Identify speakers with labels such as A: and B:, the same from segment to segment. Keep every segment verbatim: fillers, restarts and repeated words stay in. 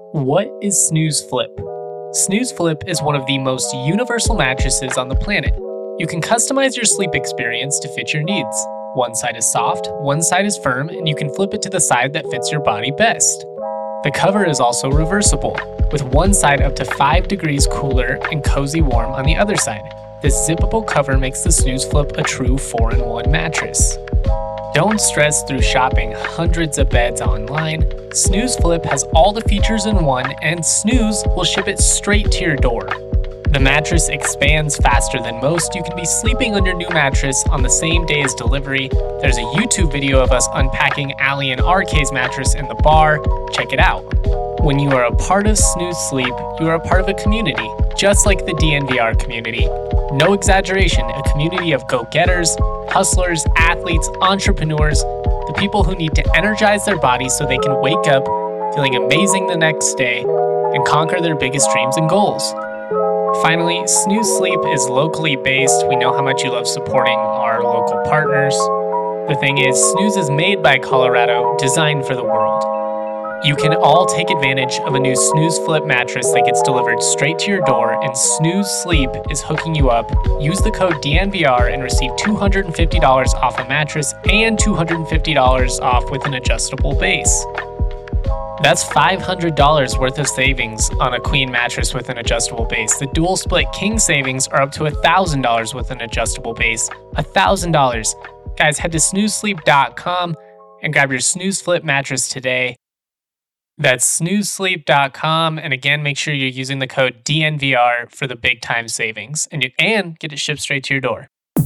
A: What is Snooze Flip? Snooze Flip is one of the most universal mattresses on the planet. You can customize your sleep experience to fit your needs. One side is soft, one side is firm, and you can flip it to the side that fits your body best. The cover is also reversible, with one side up to five degrees cooler and cozy warm on the other side. This zippable cover makes the Snooze Flip a true four in one mattress. Don't stress through shopping hundreds of beds online. Snooze Flip has all the features in one, and Snooze will ship it straight to your door. The mattress expands faster than most. You can be sleeping on your new mattress on the same day as delivery. There's a YouTube video of us unpacking Allie and R K's mattress in the bar. Check it out. When you are a part of Snooze Sleep, you are a part of a community, just like the D N V R community. No exaggeration, a community of go-getters, hustlers, athletes, entrepreneurs, the people who need to energize their bodies so they can wake up feeling amazing the next day and conquer their biggest dreams and goals. Finally, Snooze Sleep is locally based. We know how much you love supporting our local partners. The thing is, Snooze is made by Colorado, designed for the world. You can all take advantage of a new Snooze Flip mattress that gets delivered straight to your door, and Snooze Sleep is hooking you up. Use the code D N V R and receive two hundred fifty dollars off a mattress and two hundred fifty dollars off with an adjustable base. That's five hundred dollars worth of savings on a queen mattress with an adjustable base. The dual split king savings are up to one thousand dollars with an adjustable base. one thousand dollars. Guys, head to snooze sleep dot com and grab your Snooze Flip mattress today. That's snooze sleep dot com, and again, make sure you're using the code D N V R for the big time savings, and you and get it shipped straight to your door.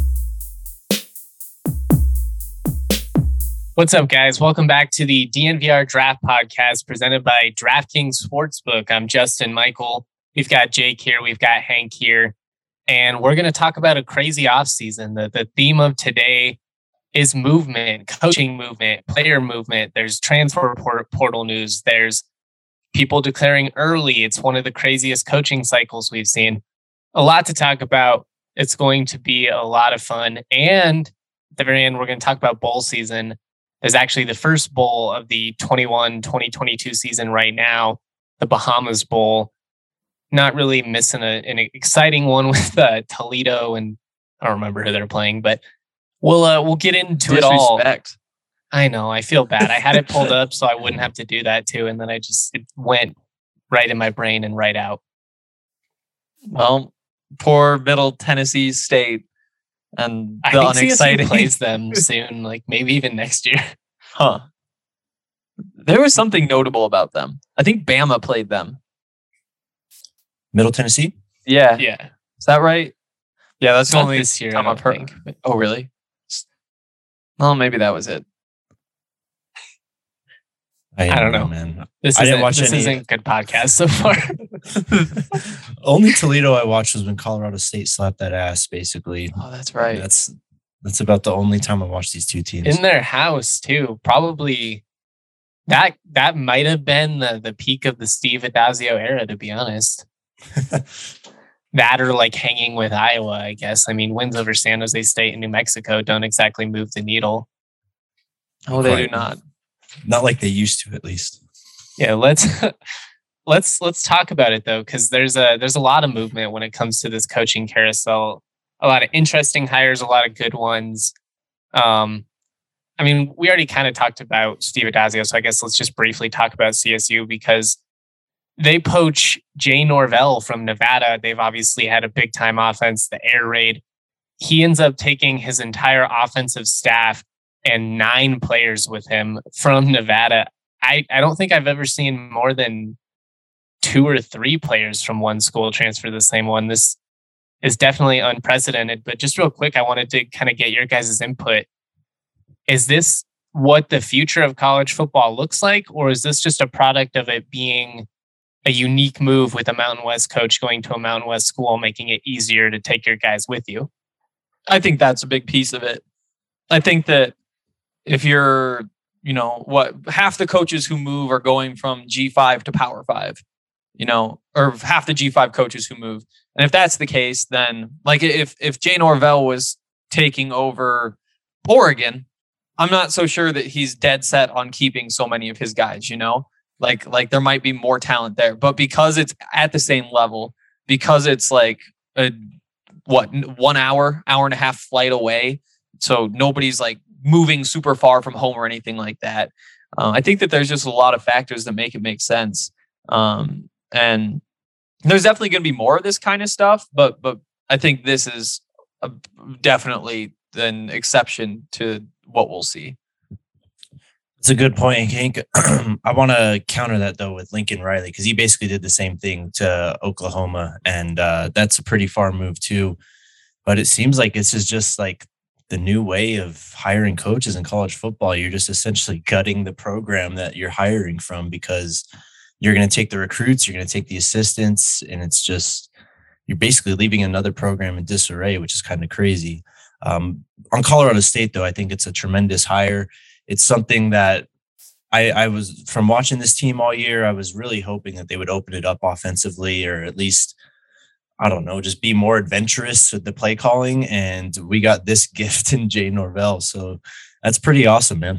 A: What's up, guys? Welcome back to the D N V R Draft Podcast presented by DraftKings Sportsbook. I'm Justin Michael. We've got Jake here. We've got Hank here. And we're going to talk about a crazy offseason. The, the theme of today is movement, coaching movement, player movement. There's transfer port- portal news. There's people declaring early. It's one of the craziest coaching cycles we've seen. A lot to talk about. It's going to be a lot of fun. And at the very end, we're going to talk about bowl season. There's actually the first bowl of the twenty-one twenty twenty-two season right now, the Bahamas Bowl. Not really missing a, an exciting one with uh, Toledo, and I don't remember who they're playing, but we'll uh, we'll get into it all.
B: Disrespect.
A: I know, I feel bad. I had it pulled up so I wouldn't have to do that too, and then I just it went right in my brain and right out.
B: Well, poor Middle Tennessee State. And the
A: I think
B: unexciting
A: C S U plays them soon, like maybe even next year.
B: Huh. There was something notable about them. I think Bama played them.
C: Middle Tennessee?
B: Yeah.
A: Yeah.
B: Is that right? Yeah, that's the
A: Not
B: only
A: this year,
B: time
A: I
B: I've
A: don't
B: heard.
A: think, but-
B: Oh, really? Well, maybe that was it.
C: I,
A: I don't know.
C: man.
A: This
C: I didn't
A: isn't,
C: watch
A: this
C: any-
A: isn't good podcast so far.
C: Only Toledo I watched was when Colorado State slapped that ass, basically.
B: Oh, that's right.
C: That's that's about the only time I watched these two teams.
A: In their house too. Probably that that might have been the, the peak of the Steve Adazio era, to be honest. That or like hanging with Iowa, I guess. I mean, wins over San Jose State and New Mexico don't exactly move the needle.
B: Oh, they do
C: Right.
B: not.
C: Not like they used to, at least.
A: Yeah, let's let's let's talk about it though, because there's a there's a lot of movement when it comes to this coaching carousel. A lot of interesting hires, a lot of good ones. Um, I mean, we already kind of talked about Steve Adazio, so I guess let's just briefly talk about C S U because they poach Jay Norvell from Nevada. They've obviously had a big time offense, the air raid. He ends up taking his entire offensive staff and nine players with him from Nevada. I, I don't think I've ever seen more than two or three players from one school transfer to the same one. This is definitely unprecedented, but just real quick, I wanted to kind of get your guys' input. Is this what the future of college football looks like, or is this just a product of it being a unique move with a Mountain West coach going to a Mountain West school, making it easier to take your guys with you?
B: I think that's a big piece of it. I think that if you're, you know, what half the coaches who move are going from G five to Power five, you know, or half the G five coaches who move. And if that's the case, then like if, if Jay Norvell was taking over Oregon, I'm not so sure that he's dead set on keeping so many of his guys, you know, Like, like there might be more talent there, but because it's at the same level, because it's like a what one hour, hour and a half flight away, so nobody's like moving super far from home or anything like that. Uh, I think that there's just a lot of factors that make it make sense, um, and there's definitely going to be more of this kind of stuff. But but I think this is a, definitely an exception to what we'll see.
C: It's a good point, Hank. I want to counter that though with Lincoln Riley, because he basically did the same thing to Oklahoma, and uh, that's a pretty far move too. But it seems like this is just like the new way of hiring coaches in college football. You're just essentially gutting the program that you're hiring from, because you're going to take the recruits, you're going to take the assistants, and it's just you're basically leaving another program in disarray, which is kind of crazy. Um, on Colorado State, though, I think it's a tremendous hire. It's something that I, I was, from watching this team all year, I was really hoping that they would open it up offensively, or at least, I don't know, just be more adventurous with the play calling. And we got this gift in Jay Norvell. So that's pretty awesome, man.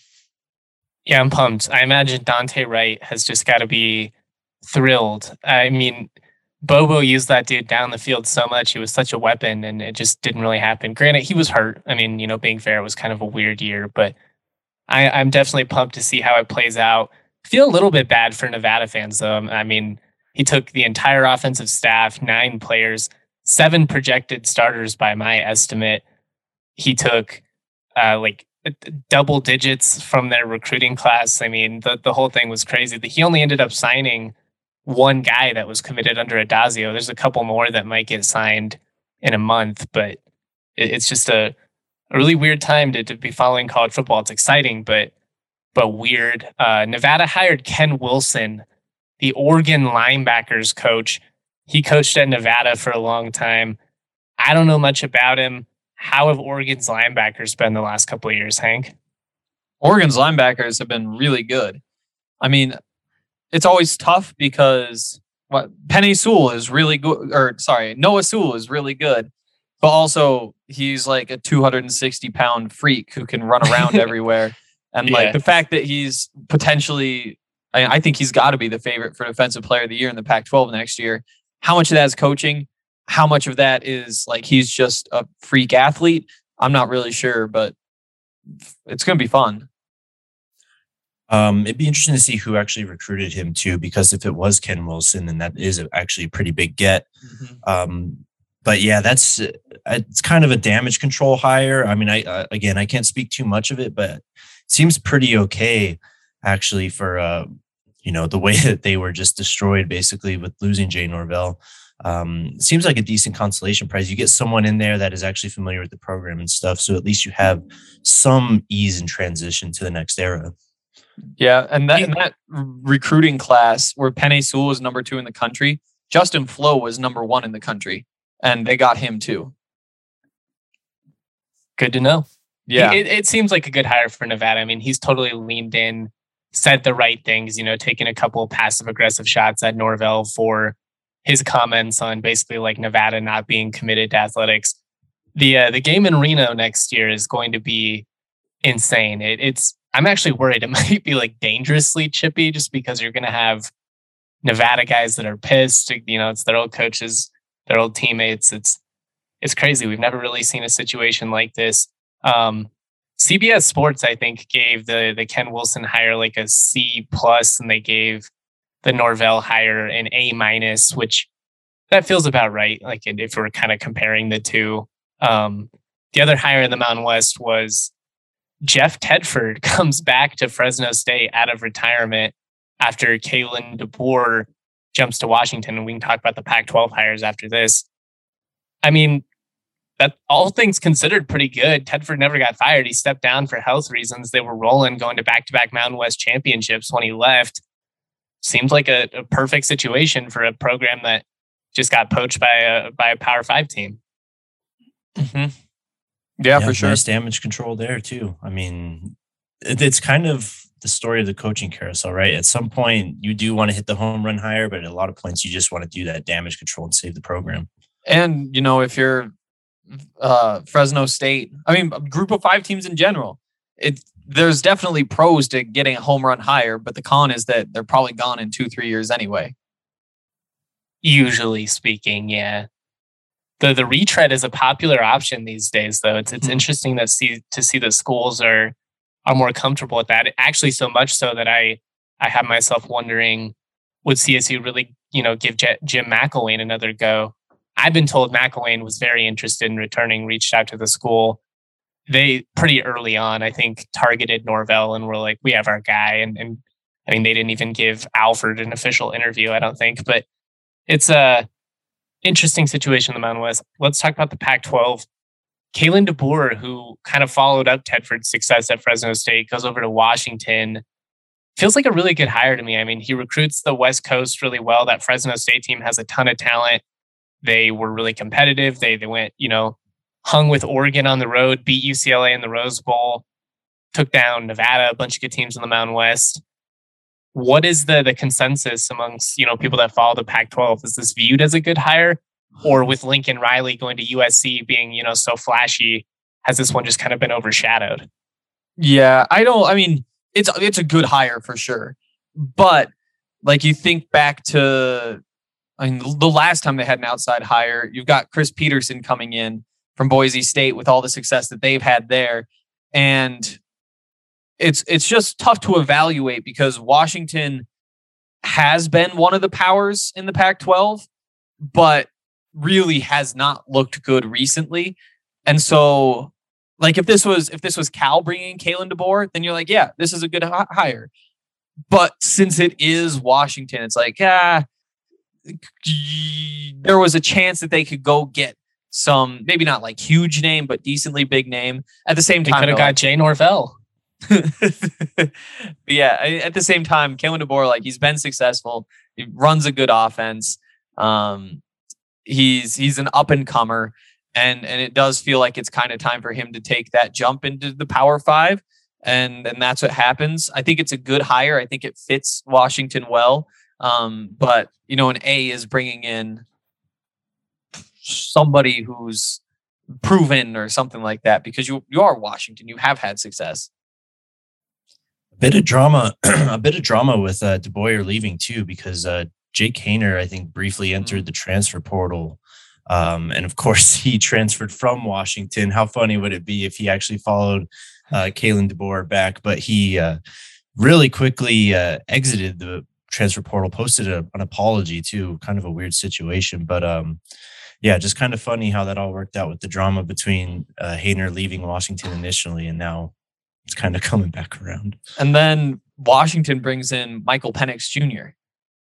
A: Yeah, I'm pumped. I imagine Dante Wright has just got to be thrilled. I mean, Bobo used that dude down the field so much. He was such a weapon, and it just didn't really happen. Granted, he was hurt. I mean, you know, being fair, it was kind of a weird year, but I, I'm definitely pumped to see how it plays out. Feel a little bit bad for Nevada fans, though. I mean, he took the entire offensive staff, nine players, seven projected starters by my estimate. He took uh, like double digits from their recruiting class. I mean, the, the whole thing was crazy. He only ended up signing one guy that was committed under Adazio. There's a couple more that might get signed in a month, but it, it's just a A really weird time to, to be following college football. It's exciting, but but weird. Uh, Nevada hired Ken Wilson, the Oregon linebackers coach. He coached at Nevada for a long time. I don't know much about him. How have Oregon's linebackers been the last couple of years, Hank?
B: Oregon's linebackers have been really good. I mean, it's always tough because what Penei Sewell is really good, or sorry, Noah Sewell is really good. But also, he's like a two hundred sixty pound freak who can run around everywhere. And
A: yeah.
B: like the fact that he's potentially, I, I think he's got to be the favorite for Defensive Player of the Year in the Pac twelve next year. How much of that is coaching? How much of that is like he's just a freak athlete? I'm not really sure, but it's going to be fun.
C: Um, it'd be interesting to see who actually recruited him too, because if it was Ken Wilson, then that is actually a pretty big get. Mm-hmm. Um, But yeah, that's it's kind of a damage control hire. I mean, I uh, again, I can't speak too much of it, but it seems pretty okay actually for uh, you know, the way that they were just destroyed basically with losing Jay Norvell. Um, it seems like a decent consolation prize. You get someone in there that is actually familiar with the program and stuff, so at least you have some ease in transition to the next era.
B: Yeah, and that in that recruiting class where Penei Sewell was number two in the country, Justin Flo was number one in the country. And they got him too.
A: Good to know.
B: Yeah.
A: It, it seems like a good hire for Nevada. I mean, he's totally leaned in, said the right things, you know, taking a couple passive aggressive shots at Norvell for his comments on basically like Nevada not being committed to athletics. The uh, the game in Reno next year is going to be insane. It, it's I'm actually worried it might be like dangerously chippy, just because you're going to have Nevada guys that are pissed. You know, it's their old coaches, their old teammates. It's it's crazy. We've never really seen a situation like this. Um, C B S Sports, I think, gave the the Ken Wilson hire like a C plus, and they gave the Norvell hire an A minus, which that feels about right. Like if we're kind of comparing the two. Um, the other hire in the Mountain West was Jeff Tedford comes back to Fresno State out of retirement after Kalen DeBoer jumps to Washington, and we can talk about the Pac twelve hires after this. I mean, that all things considered pretty good. Tedford never got fired. He stepped down for health reasons. They were rolling, going to back-to-back Mountain West championships when he left. Seems like a, a perfect situation for a program that just got poached by a by a Power Five team.
B: Mm-hmm. Yeah, yeah, for sure.
C: Nice damage control there too. I mean, it, it's kind of the story of the coaching carousel, right? At some point, you do want to hit the home run higher, but at a lot of points, you just want to do that damage control and save the program.
B: And you know, if you're uh, Fresno State, I mean, a group of five teams in general, it there's definitely pros to getting a home run hire, but the con is that they're probably gone in two, three years anyway.
A: Usually speaking, yeah. The the retread is a popular option these days, though. It's it's mm-hmm. interesting to see to see the schools are are more comfortable with that. Actually, so much so that I I have myself wondering, would C S U really, you know, give J- Jim McElwain another go? I've been told McElwain was very interested in returning, reached out to the school. They pretty early on, I think, targeted Norvell and were like, we have our guy. And, and I mean, they didn't even give Alford an official interview, I don't think. But it's a interesting situation in the Mountain West. Let's talk about the Pac twelve. Kalen DeBoer, who kind of followed up Tedford's success at Fresno State, goes over to Washington. Feels like a really good hire to me. I mean, he recruits the West Coast really well. That Fresno State team has a ton of talent. They were really competitive. They they went, you know, hung with Oregon on the road, beat U C L A in the Rose Bowl, took down Nevada, a bunch of good teams in the Mountain West. What is the the consensus amongst, you know, people that follow the Pac twelve? Is this viewed as a good hire? Or with Lincoln Riley going to U S C being, you know, so flashy, has this one just kind of been overshadowed?
B: Yeah, I don't, I mean, it's it's a good hire for sure. But like you think back to, I mean, the last time they had an outside hire, you've got Chris Peterson coming in from Boise State with all the success that they've had there. And it's it's just tough to evaluate because Washington has been one of the powers in the Pac twelve, but really has not looked good recently. And so, like, if this was if this was Cal bringing Kalen DeBoer, then you're like, yeah, this is a good h- hire. But since it is Washington, it's like, ah, there was a chance that they could go get some, maybe not like huge name, but decently big name. At the same
A: they
B: time,
A: could have got
B: like,
A: Jay Norvell.
B: But yeah, at the same time, Kalen DeBoer, like, he's been successful. He runs a good offense. Um, he's he's an up and comer, and and it does feel like it's kind of time for him to take that jump into the Power Five, and and that's what happens. I think it's a good hire. I think it fits Washington well. Um, but you know, an A is bringing in somebody who's proven or something like that, because you you are Washington. You have had success.
C: A bit of drama, a bit of drama with uh, DeBoer leaving too, because uh, Jake Haener, I think, briefly entered the transfer portal. Um, and of course, he transferred from Washington. How funny would it be if he actually followed uh, Kalen DeBoer back? But he uh, really quickly uh, exited the transfer portal, posted a, an apology too. Kind of a weird situation. But um, yeah, just kind of funny how that all worked out with the drama between uh, Haener leaving Washington initially, and now it's kind of coming back around.
B: And then Washington brings in Michael Penix Junior,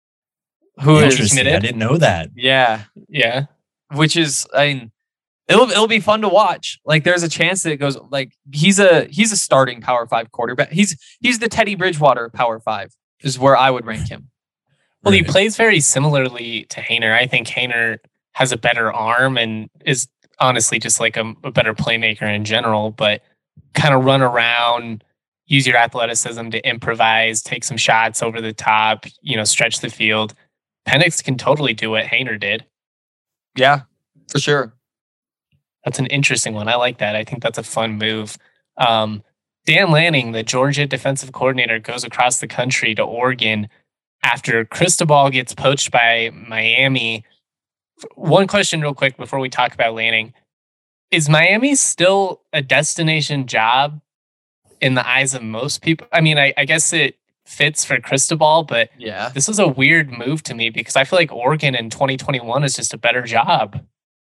B: who is
C: Interesting. I didn't know that.
B: Yeah.
A: Yeah.
B: Which is, I mean, it'll it'll be fun to watch. Like, there's a chance that it goes, like, he's a he's a starting Power Five quarterback. He's he's the Teddy Bridgewater Power Five is where I would rank him.
A: Well, right. He plays very similarly to Haener. I think Haener has a better arm and is honestly just like a, a better playmaker in general, but kind of run around, use your athleticism to improvise, take some shots over the top, you know, stretch the field. Penix can totally do what Haener did.
B: Yeah, for sure.
A: That's an interesting one. I like that. I think that's a fun move. Um, Dan Lanning, the Georgia defensive coordinator, goes across the country to Oregon after Cristobal gets poached by Miami. One question real quick before we talk about Lanning. Is Miami still a destination job in the eyes of most people? I mean, I, I guess it fits for Cristobal, but
B: yeah,
A: this is a weird move to me because I feel like Oregon in twenty twenty-one is just a better job.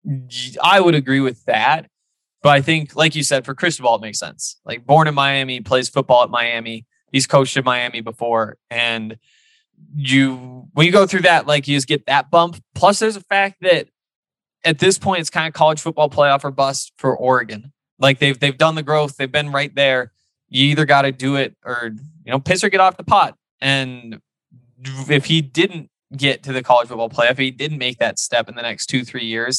B: I would agree with that. But I think, like you said, for Cristobal, it makes sense. Like, born in Miami, plays football at Miami. He's coached in Miami before. And you, when you go through that, like, you just get that bump. Plus, there's a fact that at this point, it's kind of college football playoff or bust for Oregon. Like, they've they've done the growth. They've been right there. You either got to do it or, you know, piss or get off the pot. And if he didn't get to the college football playoff, if he didn't make that step in the next two, three years,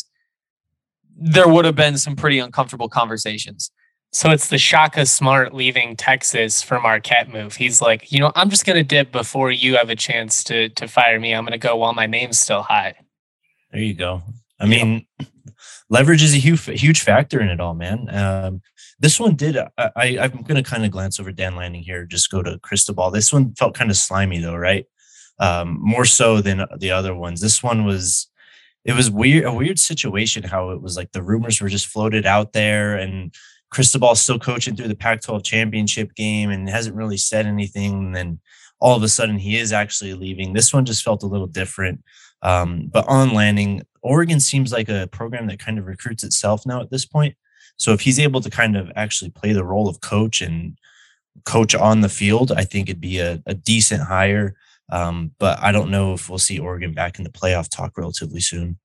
B: there would have been some pretty uncomfortable conversations.
A: So it's the Shaka Smart leaving Texas for Marquette move. He's like, you know, I'm just going to dip before you have a chance to to fire me. I'm going to go while my name's still hot.
C: There you go. I mean, leverage is a huge, huge factor in it all, man. Um, this one did. I, I, I'm going to kind of glance over Dan Lanning here. Just go to Cristobal. This one felt kind of slimy, though, right? Um, more so than the other ones. This one was. It was weird, a weird situation. How it was like the rumors were just floated out there, and Cristobal's still coaching through the Pac twelve championship game and hasn't really said anything. And then all of a sudden, he is actually leaving. This one just felt a little different. Um, but on Lanning, Oregon seems like a program that kind of recruits itself now at this point. So if he's able to kind of actually play the role of coach and coach on the field, I think it'd be a, a decent hire. Um, but I don't know if we'll see Oregon back in the playoff talk relatively soon.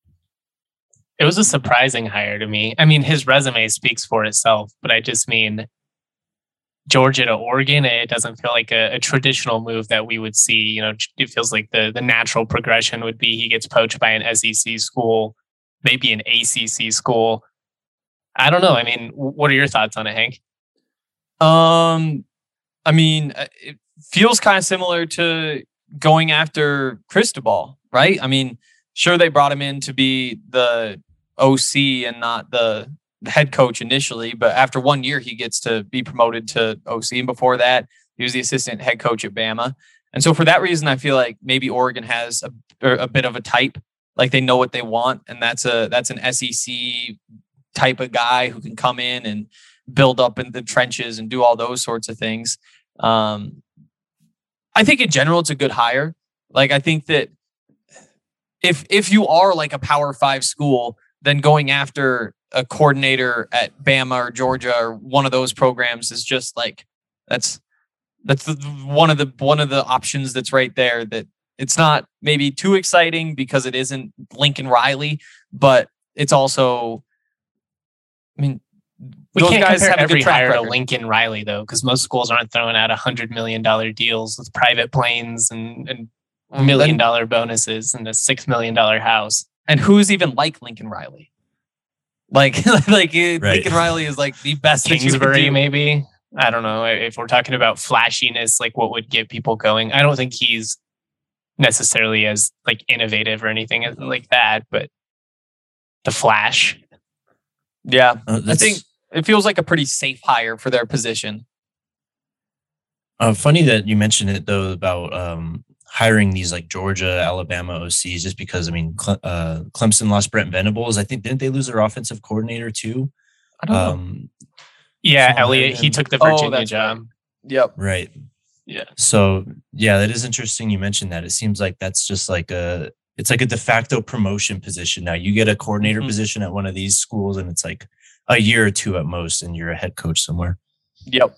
A: It was a surprising hire to me. I mean, his resume speaks for itself, but I just mean Georgia to Oregon, it doesn't feel like a, a traditional move that we would see. You know, it feels like the, the natural progression would be he gets poached by an S E C school, maybe an A C C school. I don't know. I mean, what are your thoughts on it, Hank?
B: Um, I mean, it feels kind of similar to going after Cristobal, right? I mean, sure, they brought him in to be the O C and not the, the head coach initially, but after one year, he gets to be promoted to O C. And before that, he was the assistant head coach at Bama. And so for that reason, I feel like maybe Oregon has a, a bit of a type, like they know what they want. And that's a that's an S E C type of guy who can come in and build up in the trenches and do all those sorts of things. Um, I think in general, it's a good hire. Like, I think that if if you are like a Power Five school, then going after a coordinator at Bama or Georgia or one of those programs is just like that's that's the, one of the one of the options that's right there. That it's not maybe too exciting because it isn't Lincoln Riley, but it's also, I mean,
A: we
B: those
A: can't
B: guys
A: compare
B: have a
A: every
B: good track
A: hire to
B: record.
A: Lincoln Riley though, because most schools aren't throwing out a hundred million dollar deals with private planes and and million dollar bonuses and a six million dollar house.
B: And who's even like Lincoln Riley? Like, like
C: Right.
B: Lincoln Riley is like the best that you could
A: Kingsbury,
B: do.
A: maybe. I don't know. If we're talking about flashiness, like what would get people going, I don't think he's necessarily as like innovative or anything like that, but the flash.
B: Yeah,
C: Uh,
B: I
C: that's
B: think it feels like a pretty safe hire for their position.
C: uh, funny that you mentioned it though about um, hiring these like Georgia, Alabama O Cs, just because I mean, Cle- uh, Clemson lost Brent Venables. I think didn't they lose their offensive coordinator too?
B: I don't know.
C: Um,
A: Yeah,
C: Someone
A: Elliott,
C: hired
A: he
C: him.
A: took the
B: Oh,
A: Virginia
B: that's
A: job.
B: right. Yep.
C: right.
A: Yeah.
C: So yeah, that is interesting. You mentioned that. It seems like that's just like a it's like a de facto promotion position now. You get a coordinator
B: Mhm.
C: position at one of these schools, and it's like a year or two at most, and you're a head coach somewhere.
B: Yep.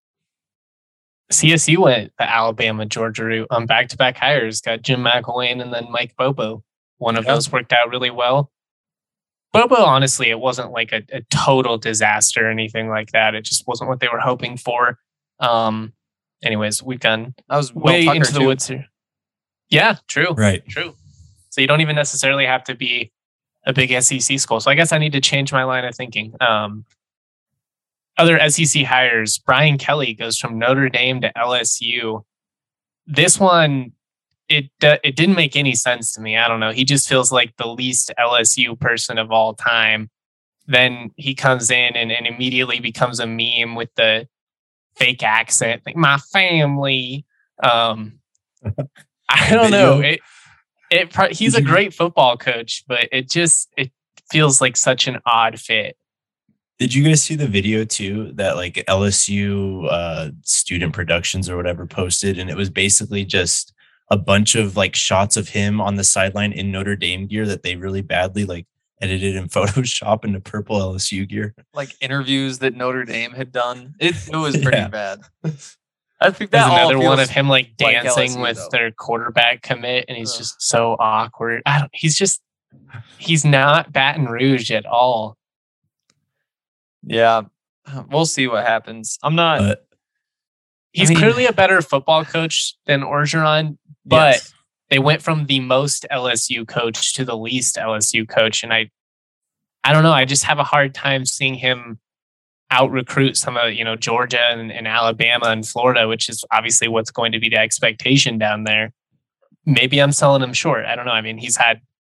A: C S U went the Alabama, Georgia route on back-to-back hires. Got Jim McElwain and then Mike Bobo. One of
B: Yep.
A: those worked out really well. Bobo, honestly, it wasn't like a, a total disaster or anything like that. It just wasn't what they were hoping for. Um, anyways, we've done
B: I was
A: way
B: Will Tucker,
A: into the
B: too.
A: woods here. Yeah, true.
C: Right.
A: True. So you don't even necessarily have to be a big S E C school. So I guess I need to change my line of thinking. Um, other S E C hires, Brian Kelly goes from Notre Dame to L S U. This one, it uh, it didn't make any sense to me. I don't know. He just feels like the least L S U person of all time. Then he comes in and, and immediately becomes a meme with the fake accent, like my family. Um, I don't know. It, it pro- he's a great football coach, but it just it feels like such an odd fit.
C: Did you guys see the video too that like L S U uh, Student Productions or whatever posted, and it was basically just a bunch of like shots of him on the sideline in Notre Dame gear that they really badly like edited in Photoshop into purple L S U gear.
B: Like interviews that Notre Dame had done. It it was pretty
C: Yeah.
B: bad. I think
A: There's
B: that all
A: another one
B: feels
A: of him like
B: like
A: dancing
B: L S U,
A: with
B: though.
A: their quarterback commit, and he's
B: Ugh.
A: just so awkward. I don't, he's just he's not Baton Rouge at all.
B: Yeah, we'll see what happens. I'm not.
C: But
A: He's
B: mean-
A: clearly a better football coach than Orgeron, but
B: yes.
A: they went from the most L S U coach to the least L S U coach, and I, I don't know. I just have a hard time seeing him out recruit some of you know Georgia and, and Alabama and Florida, which is obviously what's going to be the expectation down there. Maybe I'm selling him short. I don't know. I mean, he's had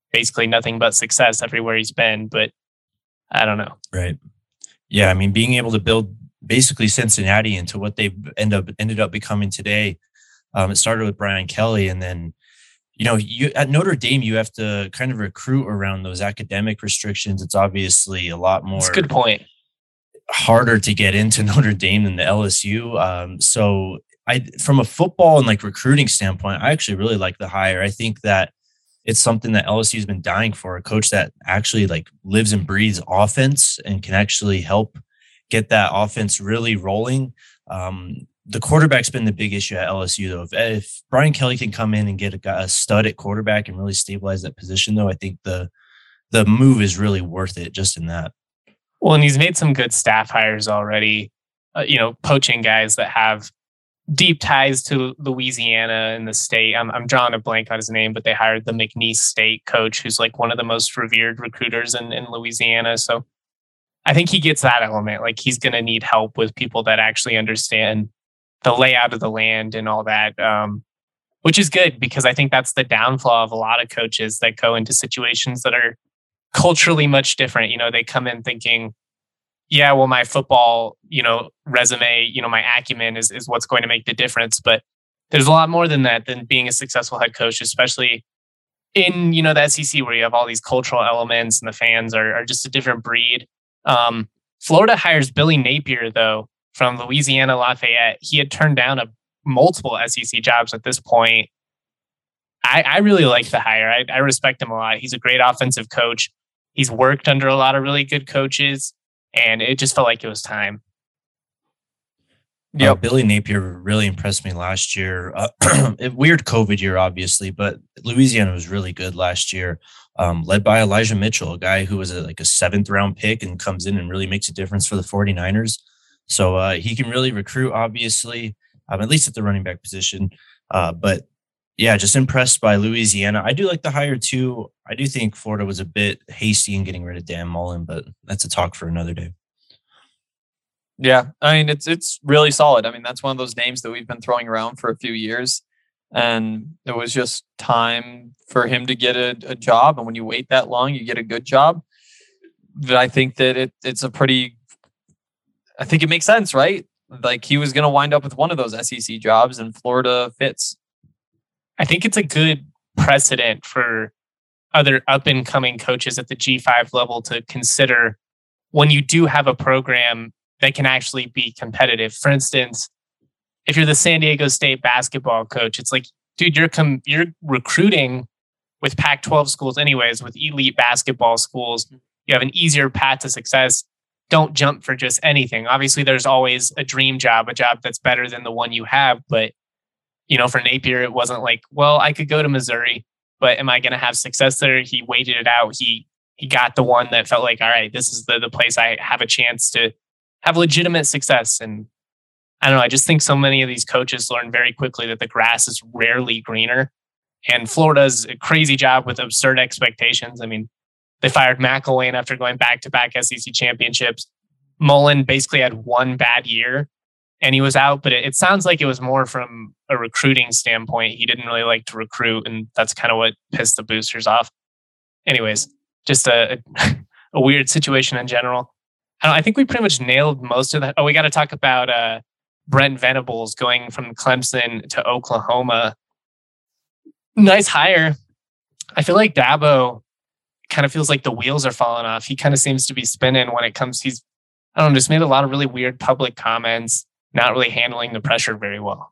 A: basically nothing but success everywhere he's been. But I don't know.
C: Right. Yeah. I mean, being able to build basically Cincinnati into what they end up ended up becoming today. Um, it started with Brian Kelly, and then, you know, you at Notre Dame, you have to kind of recruit around those academic restrictions. It's obviously a lot more.
A: That's a good point.
C: Harder to get into Notre Dame than the L S U. Um, so I, from a football and like recruiting standpoint, I actually really like the hire. I think that it's something that L S U has been dying for, a coach that actually like lives and breathes offense and can actually help get that offense really rolling. Um, the quarterback's been the big issue at L S U, though. If, if Brian Kelly can come in and get a, a stud at quarterback and really stabilize that position, though, I think the the move is really worth it just in that.
A: Well, and he's made some good staff hires already, uh, you know, poaching guys that have deep ties to Louisiana and the state. I'm, I'm drawing a blank on his name, but they hired the McNeese State coach, who's like one of the most revered recruiters in, in Louisiana. So I think he gets that element. Like, he's going to need help with people that actually understand the layout of the land and all that, um, which is good, because I think that's the downfall of a lot of coaches that go into situations that are culturally much different. You know, they come in thinking, yeah, well, my football, you know, resume, you know, my acumen is, is what's going to make the difference. But there's a lot more than that, than being a successful head coach, especially in, you know, the S E C, where you have all these cultural elements and the fans are, are just a different breed. Um, Florida hires Billy Napier, though, from Louisiana Lafayette. He had turned down a multiple S E C jobs at this point. I, I really like the hire. I, I respect him a lot. He's a great offensive coach. He's worked under a lot of really good coaches, and it just felt like it was time.
C: Yeah, uh, Billy Napier really impressed me last year. Uh, weird COVID year, obviously, but Louisiana was really good last year, um, led by Elijah Mitchell, a guy who was a, like a seventh round pick and comes in and really makes a difference for the 49ers. So uh, he can really recruit, obviously, um, at least at the running back position. Uh, but yeah, just impressed by Louisiana. I do like the hire too. I do think Florida was a bit hasty in getting rid of Dan Mullen, but that's a talk for another day.
B: Yeah, I mean, it's it's really solid. I mean, that's one of those names that we've been throwing around for a few years, and it was just time for him to get a, a job. And when you wait that long, you get a good job. But I think that it it's a pretty, I think it makes sense, right? Like, he was going to wind up with one of those S E C jobs, and Florida fits.
A: I think it's a good precedent for other up and coming coaches at the G five level to consider when you do have a program that can actually be competitive. For instance, if you're the San Diego State basketball coach, it's like, dude, you're com- you're recruiting with Pac twelve schools anyways, with elite basketball schools. You have an easier path to success. Don't jump for just anything. Obviously, there's always a dream job, a job that's better than the one you have. But, you know, for Napier, it wasn't like, well, I could go to Missouri, but am I going to have success there? He waited it out. He he got the one that felt like, all right, this is the, the place I have a chance to have legitimate success. And I don't know, I just think so many of these coaches learn very quickly that the grass is rarely greener. And Florida does a crazy job with absurd expectations. I mean, they fired McElwain after going back-to-back S E C championships. Mullen basically had one bad year and he was out, but it, it sounds like it was more from a recruiting standpoint. He didn't really like to recruit, and that's kind of what pissed the boosters off. Anyways, just a, a, a weird situation in general. I, don't, I think we pretty much nailed most of that. Oh, we got to talk about uh, Brent Venables going from Clemson to Oklahoma. Nice hire. I feel like Dabo kind of feels like the wheels are falling off. He kind of seems to be spinning when it comes. He's, I don't know, just made a lot of really weird public comments, not really handling the pressure very well.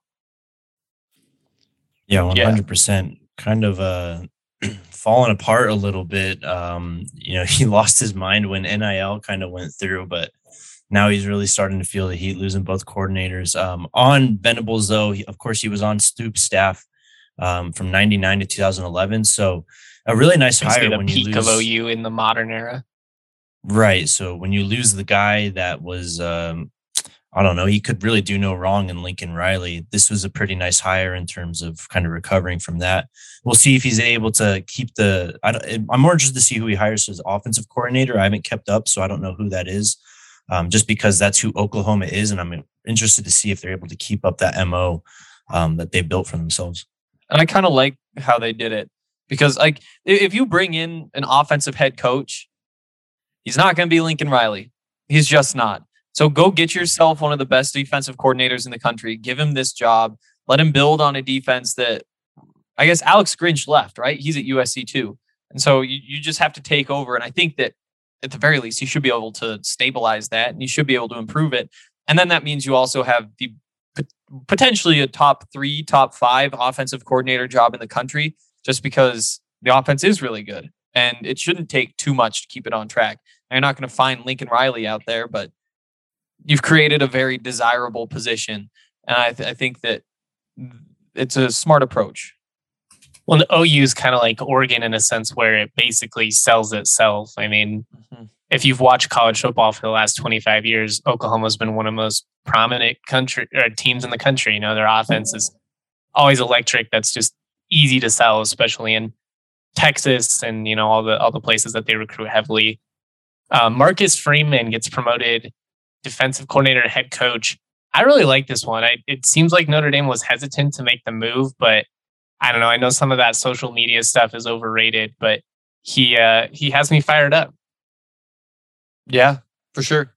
C: Yeah, one hundred percent. Yeah. Kind of uh, falling apart a little bit. Um, you know, he lost his mind when N I L kind of went through, but now he's really starting to feel the heat, losing both coordinators. Um, on Venables, though, he, of course, he was on Stoops' staff um, from ninety-nine to two thousand eleven. So a really nice
A: Basically
C: hire
A: the
C: when
A: peak
C: you lose.
A: of O U in the modern era.
C: Right. So when you lose the guy that was, um, I don't know, he could really do no wrong in Lincoln Riley. This was a pretty nice hire in terms of kind of recovering from that. We'll see if he's able to keep the, I don't, I'm more interested to see who he hires as offensive coordinator. I haven't kept up, so I don't know who that is, um, just because that's who Oklahoma is. And I'm interested to see if they're able to keep up that M O um, that they built for themselves.
B: And I kind of like how they did it. Because like if you bring in an offensive head coach, he's not going to be Lincoln Riley. He's just not. So go get yourself one of the best defensive coordinators in the country. Give him this job. Let him build on a defense that, I guess Alex Grinch left, right? He's at U S C too. And so you, you just have to take over. And I think that at the very least, you should be able to stabilize that and you should be able to improve it. And then that means you also have the potentially a top three, top five offensive coordinator job in the country, just because the offense is really good. And it shouldn't take too much to keep it on track. You're not going to find Lincoln Riley out there, but you've created a very desirable position. And I, th- I think that it's a smart approach.
A: Well, the O U is kind of like Oregon in a sense where it basically sells itself. I mean, mm-hmm. if you've watched college football for the last twenty-five years, Oklahoma's been one of the most prominent country or teams in the country. You know, their offense is always electric. That's just easy to sell, especially in Texas and, you know, all the all the places that they recruit heavily. Uh, Marcus Freeman gets promoted defensive coordinator and head coach. I really like this one. I, it seems like Notre Dame was hesitant to make the move, but I don't know. I know some of that social media stuff is overrated, but he uh, he has me fired up.
B: Yeah, for sure.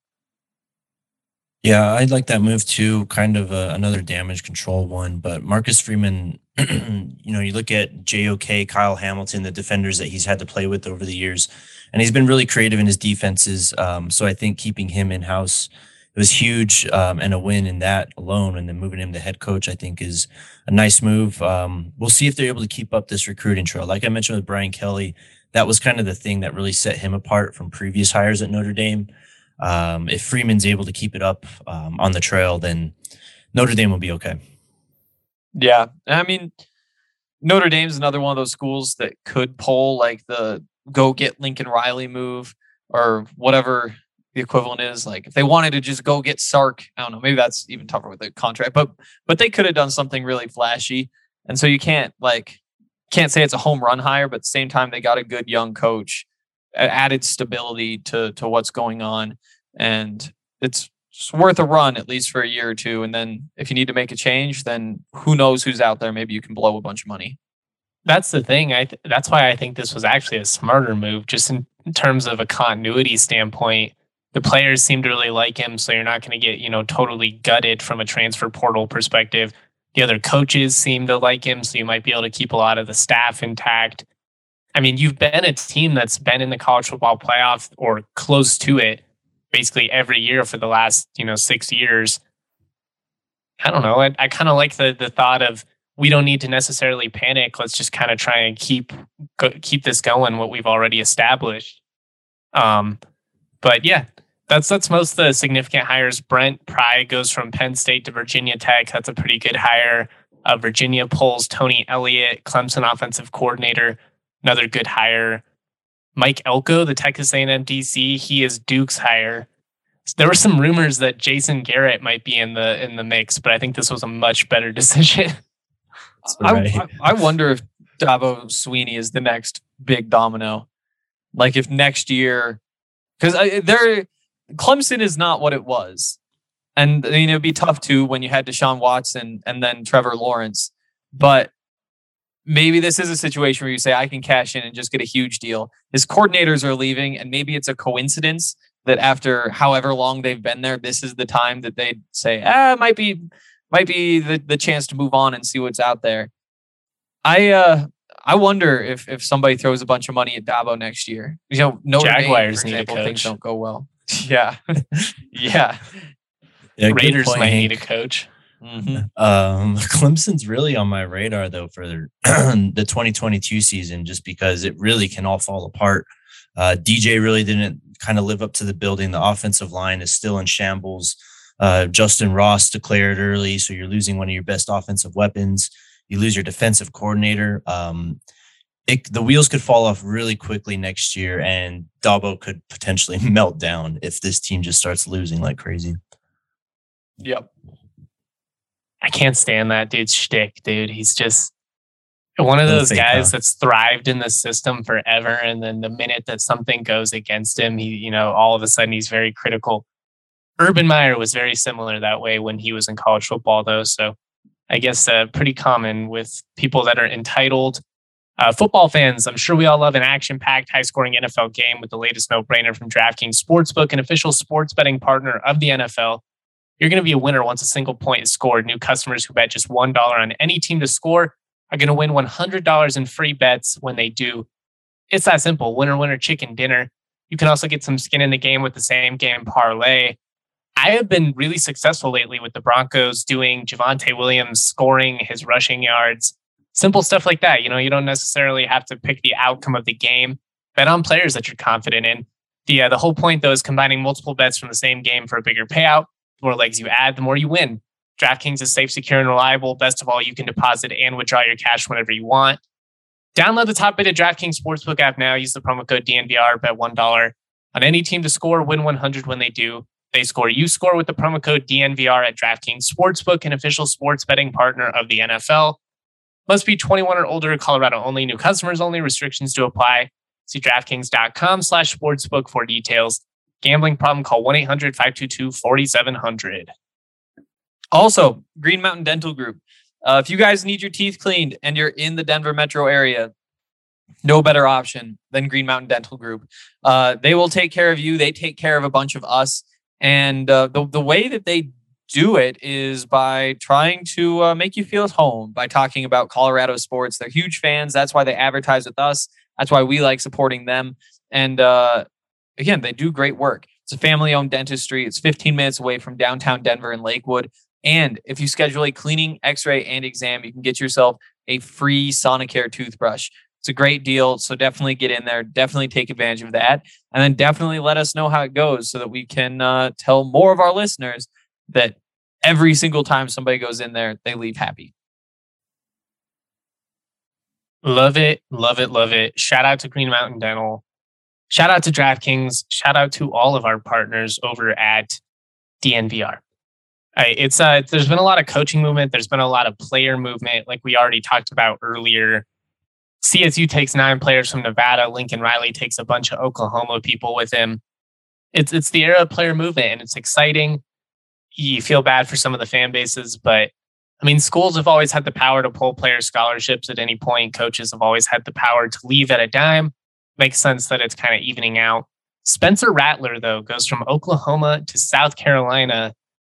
C: Yeah, I'd like that move too. Kind of a, another damage control one, but Marcus Freeman, you know, you look at J O K, Kyle Hamilton, the defenders that he's had to play with over the years, and he's been really creative in his defenses. Um, so I think keeping him in house, it was huge, um, and a win in that alone. And then moving him to head coach, I think, is a nice move. Um, we'll see if they're able to keep up this recruiting trail. Like I mentioned with Brian Kelly, that was kind of the thing that really set him apart from previous hires at Notre Dame. Um, if Freeman's able to keep it up um, on the trail, then Notre Dame will be okay.
B: Yeah. I mean, Notre Dame's another one of those schools that could pull like the go get Lincoln Riley move or whatever the equivalent is. Like if they wanted to just go get Sark, I don't know, maybe that's even tougher with the contract, but, but they could have done something really flashy. And so you can't like, can't say it's a home run hire, but at the same time, they got a good young coach, added stability to, to what's going on. And it's just worth a run, at least for a year or two. And then if you need to make a change, then who knows who's out there. Maybe you can blow a bunch of money.
A: That's the thing. I th- that's why I think this was actually a smarter move, just in, in terms of a continuity standpoint. The players seem to really like him, so you're not going to get, you know, totally gutted from a transfer portal perspective. The other coaches seem to like him, so you might be able to keep a lot of the staff intact. I mean, you've been a team that's been in the college football playoff or close to it basically every year for the last, you know, six years. I don't know. I, I kind of like the the thought of we don't need to necessarily panic. Let's just kind of try and keep go, keep this going, what we've already established. Um, but yeah, that's that's most of the significant hires. Brent Pry goes from Penn State to Virginia Tech. That's a pretty good hire. Uh, Virginia pulls Tony Elliott, Clemson offensive coordinator. Another good hire. Mike Elko, the Texas A and M D C, he is Duke's hire. So there were some rumors that Jason Garrett might be in the in the mix, but I think this was a much better decision.
B: Right. I, I wonder if Dabo Sweeney is the next big domino. Like if next year, because they're Clemson is not what it was, and you know it'd be tough too when you had Deshaun Watson and then Trevor Lawrence, but. Maybe this is a situation where you say, I can cash in and just get a huge deal. His coordinators are leaving, and maybe it's a coincidence that after however long they've been there, this is the time that they say, ah, might be might be the, the chance to move on and see what's out there. I uh, I wonder if if somebody throws a bunch of money at Dabo next year. You know, Notre
A: Jaguars
B: Dame, for example,
A: need a coach.
B: Things don't go well. yeah. yeah.
C: Yeah,
A: Raiders
C: point,
A: might
C: Hank.
A: need a coach.
C: Mm-hmm. Um, Clemson's really on my radar though for the twenty twenty-two season, just because it really can all fall apart. Uh, D J really didn't kind of live up to the building. The offensive line is still in shambles. Uh, Justin Ross declared early, so you're losing one of your best offensive weapons. You lose your defensive coordinator. Um, it, the wheels could fall off really quickly next year, and Dabo could potentially melt down if this team just starts losing like crazy.
B: Yep.
A: I can't stand that dude's shtick, dude. He's just one of those guys that's thrived in the system forever. And then the minute that something goes against him, he, you know, all of a sudden he's very critical. Urban Meyer was very similar that way when he was in college football, though. So I guess uh, pretty common with people that are entitled. Uh, football fans, I'm sure we all love an action-packed, high-scoring N F L game with the latest no-brainer from DraftKings Sportsbook, an official sports betting partner of the N F L. You're going to be a winner once a single point is scored. New customers who bet just one dollar on any team to score are going to win one hundred dollars in free bets when they do. It's that simple. Winner, winner, chicken dinner. You can also get some skin in the game with the same game parlay. I have been really successful lately with the Broncos doing Javonte Williams scoring his rushing yards. Simple stuff like that. You know, you don't necessarily have to pick the outcome of the game. Bet on players that you're confident in. The, uh, the whole point, though, is combining multiple bets from the same game for a bigger payout. The more legs you add, the more you win. DraftKings is safe, secure, and reliable. Best of all, you can deposit and withdraw your cash whenever you want. Download the top-rated DraftKings Sportsbook app now. Use the promo code D N V R. Bet one dollar on any team to score. Win one hundred when they do. They score. You score with the promo code D N V R at DraftKings Sportsbook, an official sports betting partner of the N F L. Must be twenty-one or older. Colorado only. New customers only. Restrictions to apply. See DraftKings.com slash sportsbook for details. Gambling problem? Call one eight hundred five two two four seven zero zero.
B: Also, Green Mountain Dental Group. Uh, if you guys need your teeth cleaned and you're in the Denver metro area, no better option than Green Mountain Dental Group. Uh, they will take care of you. They take care of a bunch of us. And uh, the, the way that they do it is by trying to uh, make you feel at home by talking about Colorado sports. They're huge fans. That's why they advertise with us. That's why we like supporting them. And uh, again, they do great work. It's a family-owned dentistry. It's fifteen minutes away from downtown Denver and Lakewood. And if you schedule a cleaning, x-ray, and exam, you can get yourself a free Sonicare toothbrush. It's a great deal. So definitely get in there. Definitely take advantage of that. And then definitely let us know how it goes so that we can uh, tell more of our listeners that every single time somebody goes in there, they leave happy.
A: Love it. Love it. Love it. Shout out to Green Mountain Dental. Shout out to DraftKings. Shout out to all of our partners over at D N V R. Right, it's uh, there's been a lot of coaching movement. There's been a lot of player movement, like we already talked about earlier. C S U takes nine players from Nevada. Lincoln Riley takes a bunch of Oklahoma people with him. It's it's the era of player movement, and it's exciting. You feel bad for some of the fan bases, but I mean, schools have always had the power to pull player scholarships at any point. Coaches have always had the power to leave at a dime. Makes sense that it's kind of evening out. Spencer Rattler, though, goes from Oklahoma to South Carolina.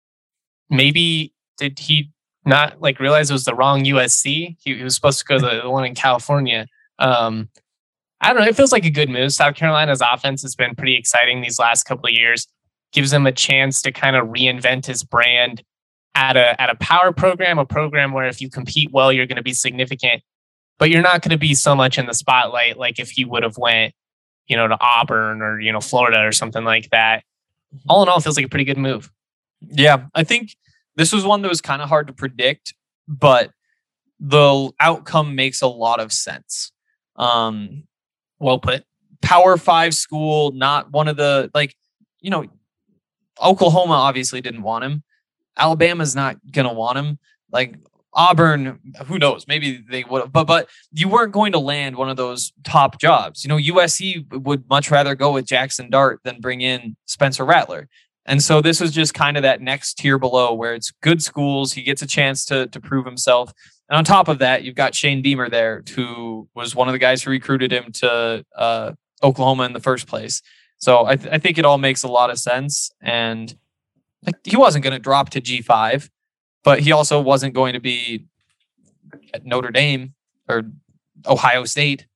A: Maybe did he not like realize it was the wrong U S C? He, he was supposed to go to the one in California. Um, I don't know. It feels like a good move. South Carolina's offense has been pretty exciting these last couple of years. Gives him a chance to kind of reinvent his brand at a at a power program, a program where if you compete well, you're going to be significant, but you're not going to be so much in the spotlight like if he would have went, you know, to Auburn or, you know, Florida or something like that. All in all, it feels like a pretty good move.
B: Yeah, I think this was one that was kind of hard to predict, but the outcome makes a lot of sense. Um,
A: well put.
B: Power five school, not one of the, like, you know, Oklahoma obviously didn't want him. Alabama's not going to want him. Like Auburn, who knows? Maybe they would have, but, but you weren't going to land one of those top jobs. You know, U S C would much rather go with Jackson Dart than bring in Spencer Rattler. And so this was just kind of that next tier below where it's good schools. He gets a chance to, to prove himself. And on top of that, you've got Shane Beamer there, who was one of the guys who recruited him to uh, Oklahoma in the first place. So I, th- I think it all makes a lot of sense. And like, he wasn't going to drop to G five, but he also wasn't going to be at Notre Dame or Ohio State.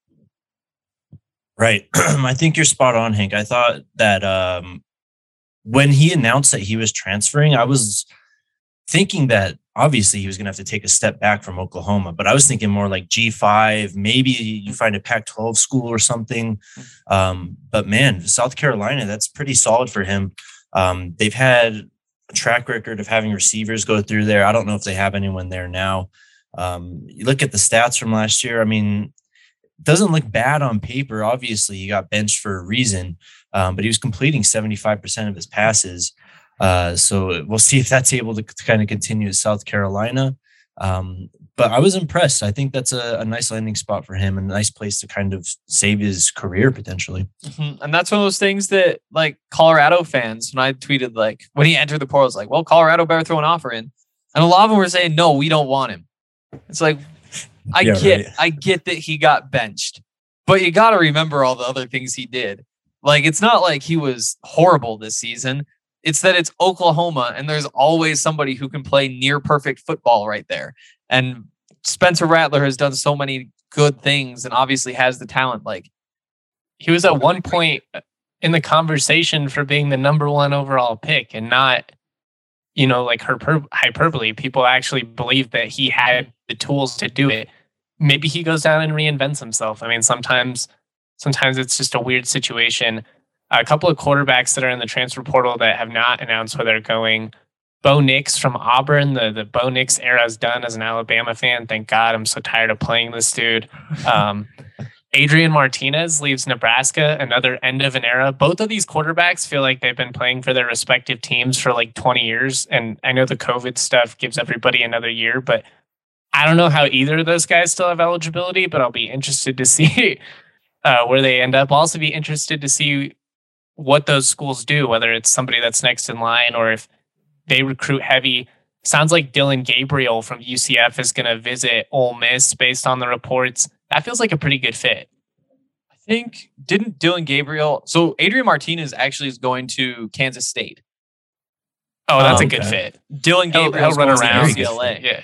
C: Right. I think you're spot on, Hank. I thought that um, when he announced that he was transferring, I was thinking that obviously he was going to have to take a step back from Oklahoma, but I was thinking more like G five, maybe you find a Pac twelve school or something. Um, but man, South Carolina, that's pretty solid for him. Um, they've had a track record of having receivers go through there. I don't know if they have anyone there now. Um, you look at the stats from last year. I mean, it doesn't look bad on paper. Obviously, he got benched for a reason, um, but he was completing seventy-five percent of his passes. Uh, so we'll see if that's able to, to kind of continue at South Carolina. Um, but I was impressed. I think that's a, a nice landing spot for him and a nice place to kind of save his career potentially.
B: Mm-hmm. And that's one of those things that like Colorado fans, when I tweeted, like when he entered the portal, it's like, well, Colorado better throw an offer in. And a lot of them were saying, no, we don't want him. It's like, I
C: Yeah,
B: get,
C: right.
B: I get that he got benched, but you got to remember all the other things he did. Like, it's not like he was horrible this season. It's that it's Oklahoma, and there's always somebody who can play near perfect football right there. And Spencer Rattler has done so many good things, and obviously has the talent. Like,
A: he was at one point in the conversation for being the number one overall pick, and not, you know, like hyper- hyperbole. People actually believe that he had the tools to do it. Maybe he goes down and reinvents himself. I mean, sometimes, sometimes it's just a weird situation. A couple of quarterbacks that are in the transfer portal that have not announced where they're going. Bo Nix from Auburn. The the Bo Nix era is done as an Alabama fan. Thank God. I'm so tired of playing this dude. Um, Adrian Martinez leaves Nebraska, another end of an era. Both of these quarterbacks feel like they've been playing for their respective teams for like twenty years. And I know the COVID stuff gives everybody another year, but I don't know how either of those guys still have eligibility, but I'll be interested to see uh, where they end up. I'll also be interested to see what those schools do, whether it's somebody that's next in line or if they recruit heavy. Sounds like Dylan Gabriel from U C F is going to visit Ole Miss based on the reports. That feels like a pretty good fit.
B: I think, didn't Dylan Gabriel, so Adrian Martinez actually is going to Kansas State.
A: Oh, that's
B: Um,
A: a good
C: okay.
A: fit.
B: Dylan
A: He'll,
B: Gabriel
A: he'll run around.
B: U C L A.
A: Yeah.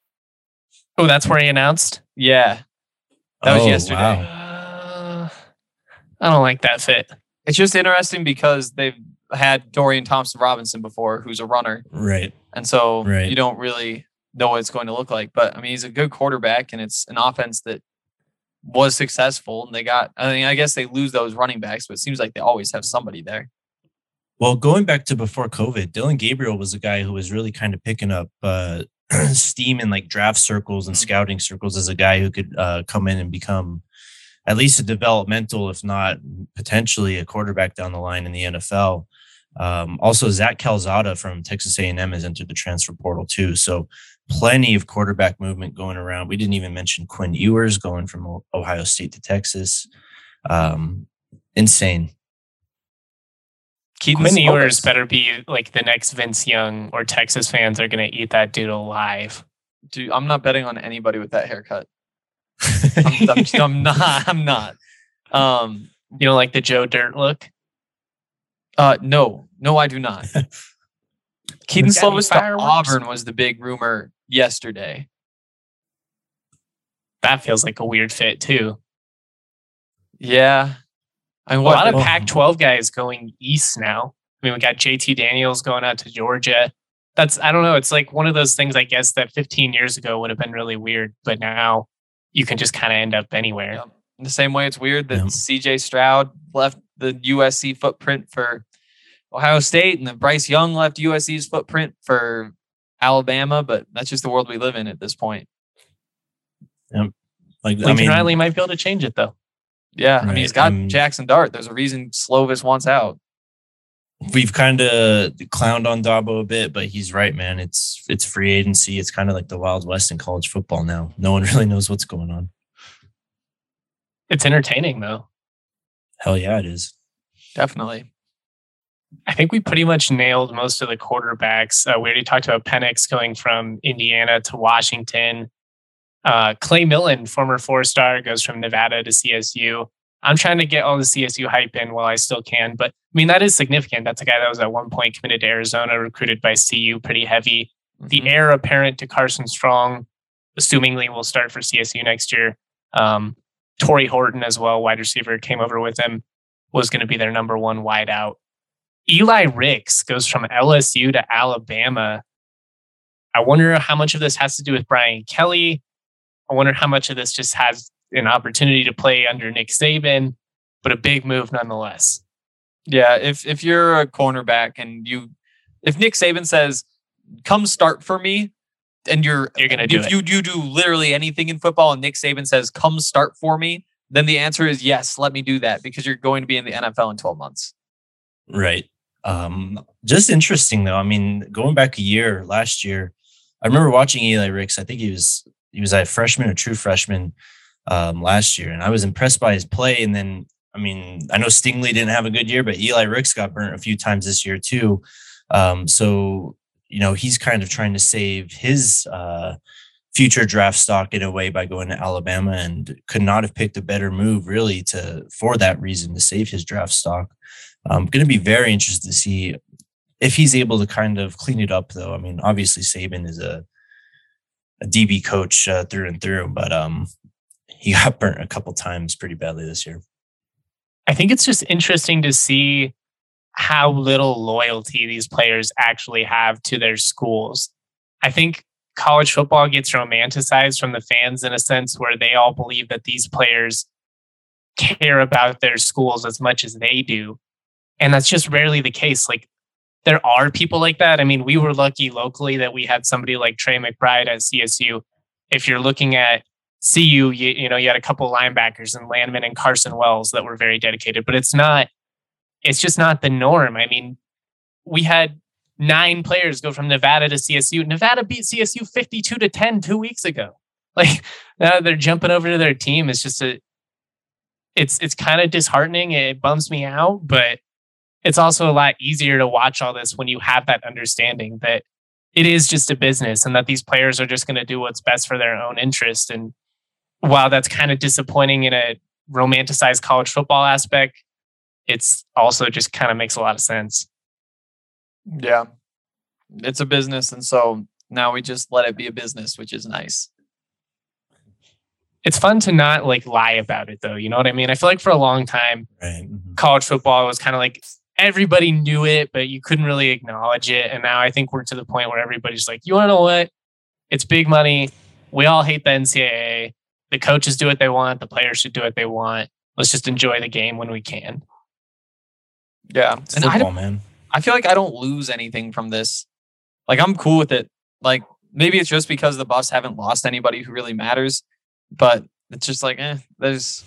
A: Oh, that's where he announced?
B: Yeah, that was
C: Oh,
B: yesterday.
C: wow.
A: Uh, I don't like that fit.
B: It's just interesting because they've had Dorian Thompson Robinson before, who's a runner.
C: Right.
B: And so
C: Right.
B: you don't really know what it's going to look like. But I mean, he's a good quarterback, and it's an offense that was successful. And they got, I mean, I guess they lose those running backs, but it seems like they always have somebody there.
C: Well, going back to before COVID, Dylan Gabriel was a guy who was really kind of picking up uh, steam in like draft circles and
B: Mhm.
C: scouting circles as a guy who could uh, come in and become at least a developmental, if not potentially a quarterback down the line in the N F L. Um, also, Zach Calzada from Texas A and M has entered the transfer portal too. So plenty of quarterback movement going around. We didn't even mention Quinn Ewers going from O- Ohio State to Texas. Um, insane.
B: Keaton
A: Quinn
B: Slovis.
A: Ewers better be like the next Vince Young, or Texas fans are going to eat that dude alive.
B: Dude, I'm not betting on anybody with that haircut. I'm, I'm, just- I'm not. I'm not. Um,
A: You don't like the Joe Dirt look?
B: uh, no, no, I do not. Keaton
A: Got any
B: Slovis to
A: fireworks?
B: Auburn was the big rumor yesterday.
A: That feels like a weird fit too.
B: Yeah. I mean,
A: A
B: what?
A: lot of
C: Well-
A: Pac twelve guys going east now. I mean, we got J T Daniels going out to Georgia. That's, I don't know. It's like one of those things, I guess, that fifteen years ago would have been really weird, but now you can just kind of end up anywhere.
B: Yep. In the same way, it's weird that
C: Yeah.
B: C J Stroud left the U S C footprint for Ohio State, and then Bryce Young left U S C's footprint for Alabama. But that's just the world we live in at this point.
C: Like,
A: Lincoln
C: I mean,
A: Riley might be able to change it, though.
B: Yeah, I mean,
C: Right,
B: he's got
C: um,
B: Jackson Dart. There's a reason Slovis wants out.
C: we've kind of clowned on Dabo a bit, but he's right, man. It's it's free agency. It's kind of like the Wild West in college football now. No one really knows what's going on.
A: It's entertaining, though.
C: Hell yeah, it is.
B: Definitely.
A: I think we pretty much nailed most of the quarterbacks. Uh, we already talked about Penix going from Indiana to Washington. Uh, Clay Millen, former four-star, goes from Nevada to C S U. I'm trying to get all the C S U hype in while I still can, but I mean, that is significant. That's a guy that was at one point committed to Arizona, recruited by C U, pretty heavy. The
B: Mhm.
A: heir apparent to Carson Strong, assumingly will start for C S U next year. Um, Torrey Horton as well, wide receiver, came over with him, was going to be their number one wideout. Eli Ricks goes from L S U to Alabama. I wonder how much of this has to do with Brian Kelly. I wonder how much of this just has an opportunity to play under Nick Saban, but a big move nonetheless.
B: Yeah, if if you're a cornerback and you, if Nick Saban says, "Come start for me," and you're
A: You're gonna do
B: if
A: it.
B: you you do literally anything in football, and Nick Saban says, "Come start for me," then the answer is yes. Let me do that because you're going to be in the N F L in twelve months.
C: Right. Um, just interesting though. I mean, going back a year, last year, I remember watching Eli Ricks. I think he was he was a freshman, a true freshman um, last year, and I was impressed by his play. And then, I mean, I know Stingley didn't have a good year, but Eli Ricks got burnt a few times this year too. Um, so you know, he's kind of trying to save his uh, future draft stock in a way by going to Alabama, and could not have picked a better move really to for that reason to save his draft stock. I'm going to be very interested to see if he's able to kind of clean it up, though. I mean, obviously Saban is a a D B coach uh, through and through, but um, he got burnt a couple times pretty badly this year.
A: I think it's just interesting to see how little loyalty these players actually have to their schools. I think college football gets romanticized from the fans in a sense where they all believe that these players care about their schools as much as they do. And that's just rarely the case. Like, there are people like that. I mean, we were lucky locally that we had somebody like Trey McBride at C S U. If you're looking at C U, you, you know, you had a couple of linebackers and Landman and Carson Wells that were very dedicated, but it's not, it's just not the norm. I mean, we had nine players go from Nevada to C S U. Nevada beat C S U fifty-two to ten two weeks ago. Like, now they're jumping over to their team. It's just a, it's, it's kind of disheartening. It bums me out, but it's also a lot easier to watch all this when you have that understanding that it is just a business and that these players are just going to do what's best for their own interest. And while that's kind of disappointing in a romanticized college football aspect, it's also just kind of makes a lot of sense.
B: Yeah, it's a business. And so now we just let it be a business, which is nice.
A: It's fun to not like lie about it though. You know what I mean? I feel like for a long time,
C: Right. Mm-hmm.
A: college football was kind of like everybody knew it, but you couldn't really acknowledge it. And now I think we're to the point where everybody's like, you want to know what? It's big money. We all hate the N C double A. The coaches do what they want. The players should do what they want. Let's just enjoy the game when we can.
B: Yeah.
C: It's
B: and
C: football,
B: I don't,
C: man.
B: I feel like I don't lose anything from this. Like, I'm cool with it. Like, maybe it's just because the Buffs haven't lost anybody who really matters, but it's just like, eh, there's,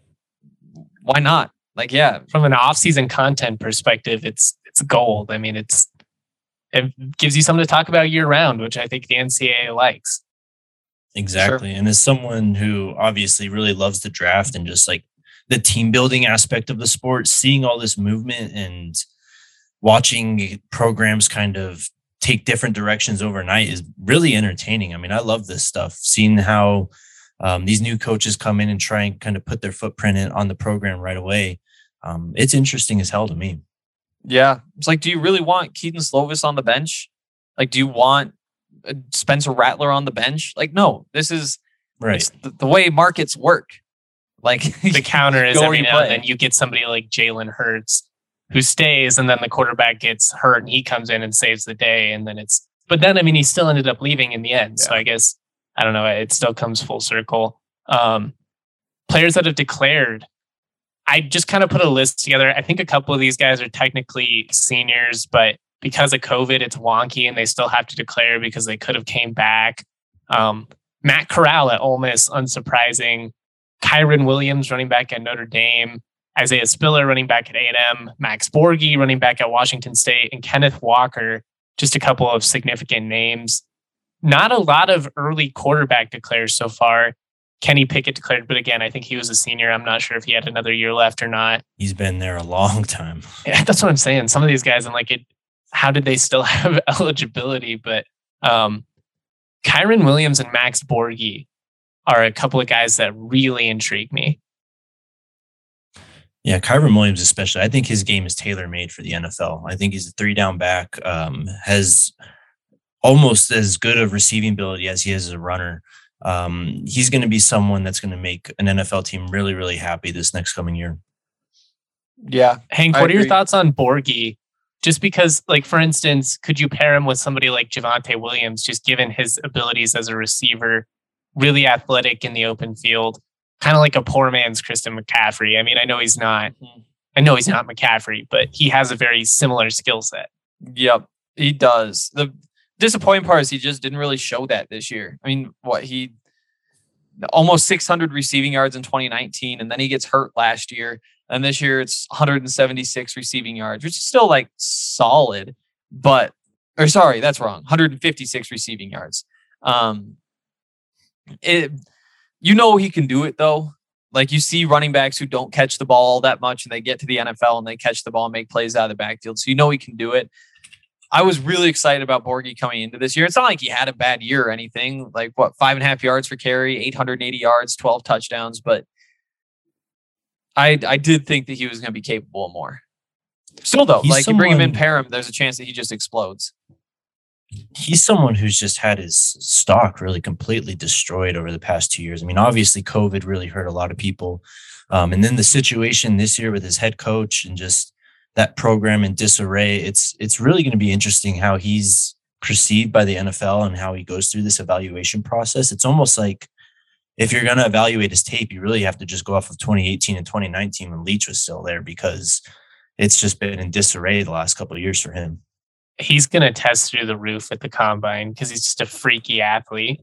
B: why not? Like, yeah.
A: From an off-season content perspective, it's it's gold. I mean, it's it gives you something to talk about year-round, which I think the N C double A likes.
C: Exactly. Sure. And as someone who obviously really loves the draft and just like the team building aspect of the sport, seeing all this movement and watching programs kind of take different directions overnight is really entertaining. I mean, I love this stuff, seeing how um, these new coaches come in and try and kind of put their footprint in, on the program right away. Um, it's interesting as hell to me.
B: Yeah. It's like, do you really want Keaton Slovis on the bench? Like, do you want Spencer Rattler on the bench? Like, no, this is
C: right.
B: the, the way markets work. Like,
A: the counter is every now
B: play.
A: and then you get somebody like Jalen Hurts who stays, and then the quarterback gets hurt and he comes in and saves the day. And then it's, but then, I mean, he still ended up leaving in the end. Yeah. So I guess, I don't know, it still comes full circle. Um, players that have declared, I just kind of put a list together. I think a couple of these guys are technically seniors, but because of COVID, it's wonky and they still have to declare because they could have came back. Um, Matt Corral at Ole Miss, unsurprising. Kyron Williams, running back at Notre Dame. Isaiah Spiller, running back at A and M. Max Borghi, running back at Washington State. And Kenneth Walker, just a couple of significant names. Not a lot of early quarterback declares so far. Kenny Pickett declared, but again, I think he was a senior. I'm not sure if he had another year left or not.
C: He's been there a long time.
A: Yeah, that's what I'm saying. Some of these guys, I'm like, it, how did they still have eligibility? But um, Kyron Williams and Max Borghi are a couple of guys that really intrigue me.
C: Yeah, Kyron Williams especially. I think his game is tailor-made for the N F L. I think he's a three-down back, um, has almost as good of receiving ability as he is as a runner. Um, he's going to be someone that's going to make an N F L team really, really happy this next coming year.
B: Yeah.
A: Hank,
B: I
A: what
B: agree.
A: are your thoughts on Borghi? Just because, like, for instance, could you pair him with somebody like Javonte Williams, just given his abilities as a receiver, really athletic in the open field, kind of like a poor man's Christian McCaffrey? I mean, I know he's not, I know he's not McCaffrey, but he has a very similar skill set.
B: Yep, he does. The disappointing part is he just didn't really show that this year. I mean, what he almost six hundred receiving yards in twenty nineteen, and then he gets hurt last year. And this year it's one hundred seventy-six receiving yards, which is still like solid, but, or sorry, that's wrong. one hundred fifty-six receiving yards. Um, it, you know, he can do it though. Like, you see running backs who don't catch the ball all that much and they get to the N F L and they catch the ball and make plays out of the backfield. So you know he can do it. I was really excited about Borgie coming into this year. It's not like he had a bad year or anything. Like what, five and a half yards for carry, eight hundred eighty yards, twelve touchdowns. But I I did think that he was going to be capable of more. Still though, he's like someone, you bring him in, pair him, there's a chance that he just explodes.
C: He's someone who's just had his stock really completely destroyed over the past two years. I mean, obviously COVID really hurt a lot of people. Um, and then the situation this year with his head coach and just that program in disarray, it's it's really going to be interesting how he's perceived by the N F L and how he goes through this evaluation process. It's almost like if you're going to evaluate his tape, you really have to just go off of twenty eighteen and twenty nineteen when Leach was still there, because it's just been in disarray the last couple of years for him.
A: He's going to test through the roof at the combine because he's just a freaky athlete.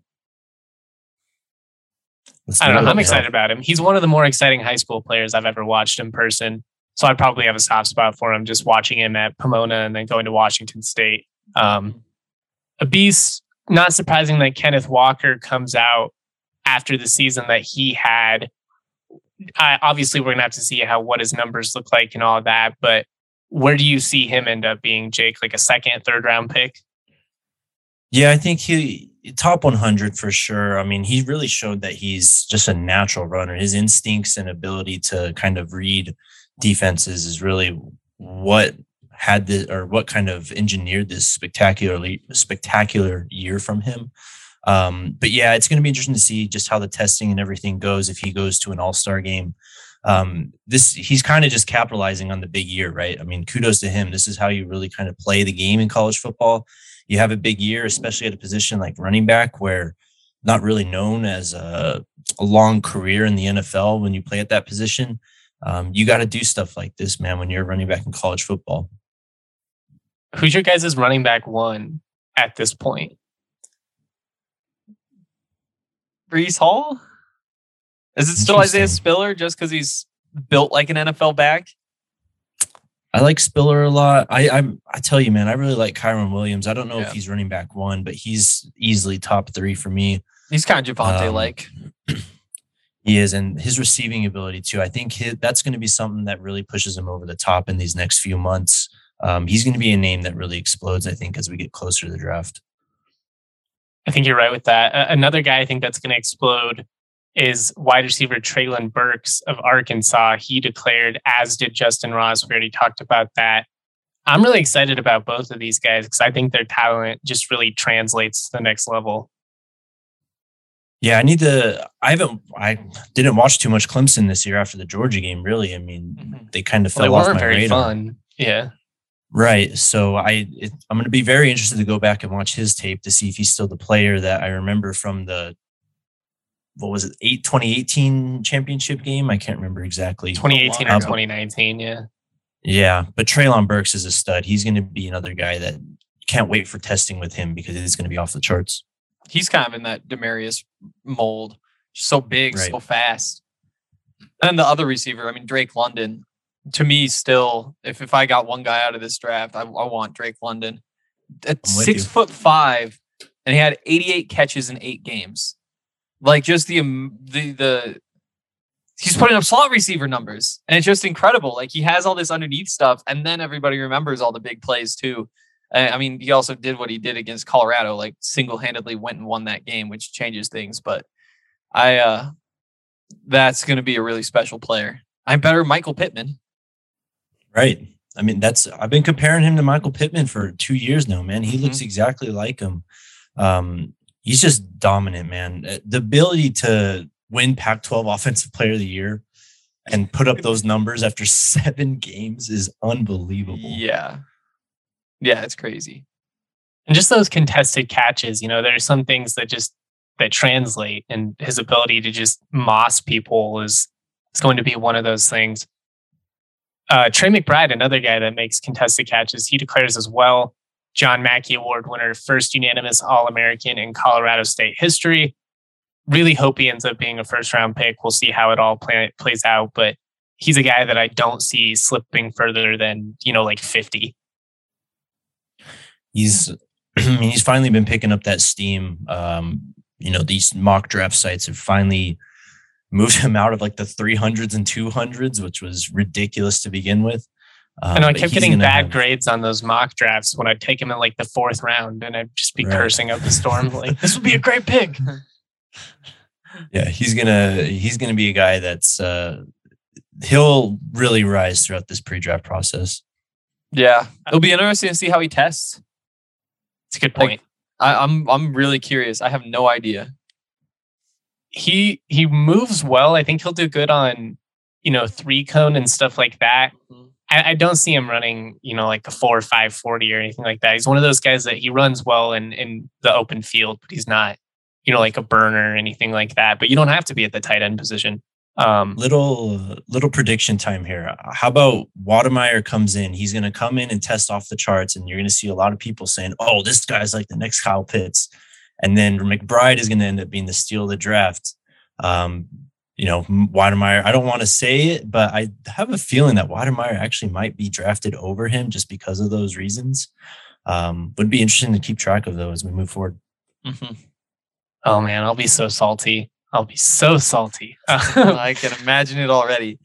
A: Let's I don't know. I'm excited about him. He's one of the more exciting high school players I've ever watched in person. So I'd probably have a soft spot for him just watching him at Pomona and then going to Washington State. Um, a beast. Not surprising that Kenneth Walker comes out after the season that he had. I, obviously, we're going to have to see how what his numbers look like and all that. But where do you see him end up being, Jake? Like a second, third round pick?
C: Yeah, I think he top one hundred for sure. I mean, he really showed that he's just a natural runner. His instincts and ability to kind of read defenses is really what had the or what kind of engineered this spectacularly spectacular year from him. Um, but yeah, it's going to be interesting to see just how the testing and everything goes if he goes to an all-star game. Um, this he's kind of just capitalizing on the big year, right? I mean, kudos to him. This is how you really kind of play the game in college football. You have a big year, especially at a position like running back, where not really known as a, a long career in the N F L when you play at that position. Um, you got to do stuff like this, man, when you're running back in college football.
A: Who's your guys' running back one at this point?
B: Breece Hall? Is it still Isaiah Spiller just because he's built like an N F L back?
C: I like Spiller a lot. I I, I tell you, man, I really like Kyron Williams. I don't know
B: yeah.
C: if he's running back one, but he's easily top three for me.
B: He's kind of Javonte-like.
C: Um, he is, and his receiving ability too. I think his, that's going to be something that really pushes him over the top in these next few months. Um, he's going to be a name that really explodes, I think, as we get closer to the draft.
A: I think you're right with that. Uh, another guy I think that's going to explode is wide receiver Treylon Burks of Arkansas. He declared, as did Justin Ross. We already talked about that. I'm really excited about both of these guys because I think their talent just really translates to the next level.
C: Yeah, I need to. I haven't. I didn't watch too much Clemson this year after the Georgia game. Really, I mean, mm-hmm. they kind of fell
A: well,
C: off my
A: very
C: radar.
A: Fun. Yeah,
C: right. So I, it, I'm going to be very interested to go back and watch his tape to see if he's still the player that I remember from the. What was it? Eight twenty eighteen championship game. I can't remember exactly.
A: twenty eighteen or twenty nineteen. Yeah.
C: Yeah, but Treylon Burks is a stud. He's going to be another guy that can't wait for testing with him because it's going to be off the charts.
B: He's kind of in that Demarius mold. So big, right. So fast. And the other receiver, I mean, Drake London, to me still, if, if I got one guy out of this draft, I, I want Drake London. At six you. foot five, and he had eighty-eight catches in eight games. Like just the, the, the, he's putting up slot receiver numbers and it's just incredible. Like he has all this underneath stuff and then everybody remembers all the big plays too. I mean, he also did what he did against Colorado, like single-handedly went and won that game, which changes things. But I, uh, that's going to be a really special player. I'm better Michael Pittman.
C: Right. I mean, that's, I've been comparing him to Michael Pittman for two years now, man. He mm-hmm. looks exactly like him. Um, he's just dominant, man. The ability to win Pac twelve Offensive Player of the Year and put up those numbers after seven games is unbelievable.
B: Yeah. Yeah, it's crazy.
A: And just those contested catches, you know, there are some things that just that translate, and his ability to just moss people is, is going to be one of those things. Uh, Trey McBride, another guy that makes contested catches, he declares as well. John Mackey Award winner, first unanimous All-American in Colorado State history. Really hope he ends up being a first-round pick. We'll see how it all play, plays out, but he's a guy that I don't see slipping further than, you know, like fifty.
C: He's, I mean, he's finally been picking up that steam. Um, you know, these mock draft sites have finally moved him out of like the three hundreds and two hundreds, which was ridiculous to begin with. Um,
A: I know I
C: but
A: kept
C: he's
A: getting
C: gonna
A: bad
C: have-
A: grades on those mock drafts when I'd take him in like the fourth round, and I'd just be
C: Right.
A: cursing up a storm like, this would be a great pick.
C: Yeah, he's gonna he's gonna be a guy that's uh, he'll really rise throughout this pre-draft process.
B: Yeah, it'll be interesting to see how he tests.
A: It's a good point.
B: Like, I, I'm I'm really curious. I have no idea.
A: he he moves well. I think he'll do good on, you know, three cone and stuff like that. I, I don't see him running, you know, like a four or five forty or anything like that. He's one of those guys that he runs well in in the open field, but he's not, you know, like a burner or anything like that. But you don't have to be at the tight end position. Um,
C: Little little prediction time here. How about Wademeyer comes in? He's going to come in and test off the charts, and you're going to see a lot of people saying, "Oh, this guy's like the next Kyle Pitts," and then McBride is going to end up being the steal of the draft. Um, you know, Wademeyer. I don't want to say it, but I have a feeling that Wademeyer actually might be drafted over him just because of those reasons. Um, would be interesting to keep track of those as we move forward.
B: Mm-hmm.
A: oh man, I'll be so salty. I'll be so salty.
B: I can imagine it already.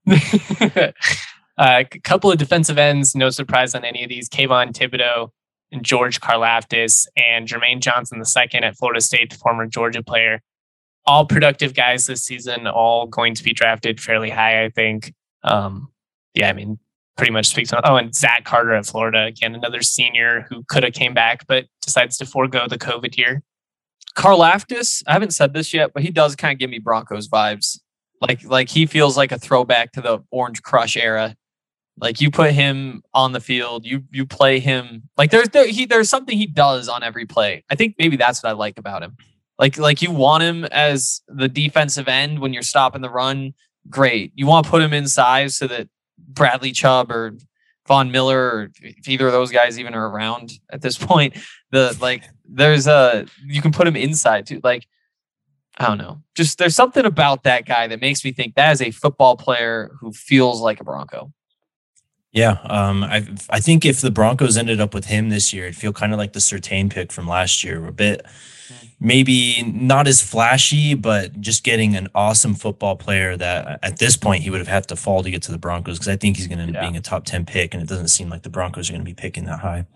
A: uh, a couple of defensive ends, no surprise on any of these. Kayvon Thibodeau and George Karlaftis and Jermaine Johnson the second at Florida State, the former Georgia player. All productive guys this season, all going to be drafted fairly high, I think. Um, yeah, I mean, pretty much speaks on. Oh, and Zach Carter at Florida, again, another senior who could have came back, but decides to forego the COVID year.
B: Karlaftis, I haven't said this yet, but he does kind of give me Broncos vibes. Like, like he feels like a throwback to the Orange Crush era. Like you put him on the field, you you play him. Like there's there, he there's something he does on every play. I think maybe that's what I like about him. Like like you want him as the defensive end when you're stopping the run. Great. You want to put him inside so that Bradley Chubb or Von Miller, or if either of those guys even are around at this point, the like there's a you can put him inside too. Like I don't know, just there's something about that guy that makes me think that is a football player who feels like a Bronco.
C: Yeah, um, I I think if the Broncos ended up with him this year, it'd feel kind of like the Surtain pick from last year, a bit maybe not as flashy, but just getting an awesome football player that at this point he would have had to fall to get to the Broncos, because I think he's going to end up
B: Yeah.
C: being a top ten pick, and it doesn't seem like the Broncos are going to be picking that high.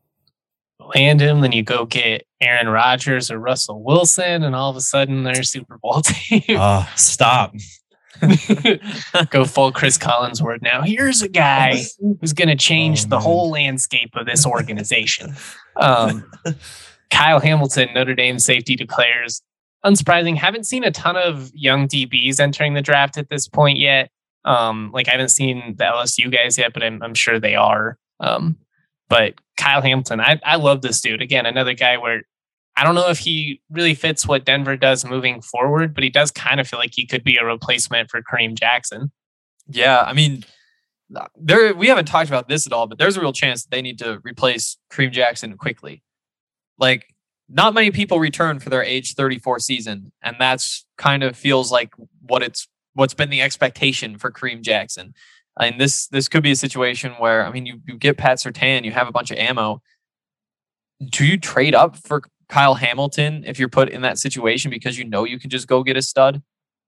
A: Land him, then you go get Aaron Rodgers or Russell Wilson, and all of a sudden they're a Super Bowl team.
C: Oh, stop.
A: Go full Chris Collinsworth now. Here's a guy who's going to change
C: Oh,
A: the
C: man.
A: whole landscape of this organization. Um, Kyle Hamilton, Notre Dame safety, declares, unsurprising, haven't seen a ton of young D Bs entering the draft at this point yet. Um, like I haven't seen the L S U guys yet, but I'm, I'm sure they are. Um, but Kyle Hamilton, I, I love this dude. Again, another guy where I don't know if he really fits what Denver does moving forward, but he does kind of feel like he could be a replacement for Kareem Jackson.
B: Yeah, I mean, there we haven't talked about this at all, but there's a real chance that they need to replace Kareem Jackson quickly. Like, not many people return for their age thirty-four season, and that's kind of feels like what it's what's been the expectation for Kareem Jackson. I mean, this this could be a situation where, I mean, you, you get Pat Surtain, you have a bunch of ammo. Do you trade up for Kyle Hamilton if you're put in that situation because you know you can just go get a stud?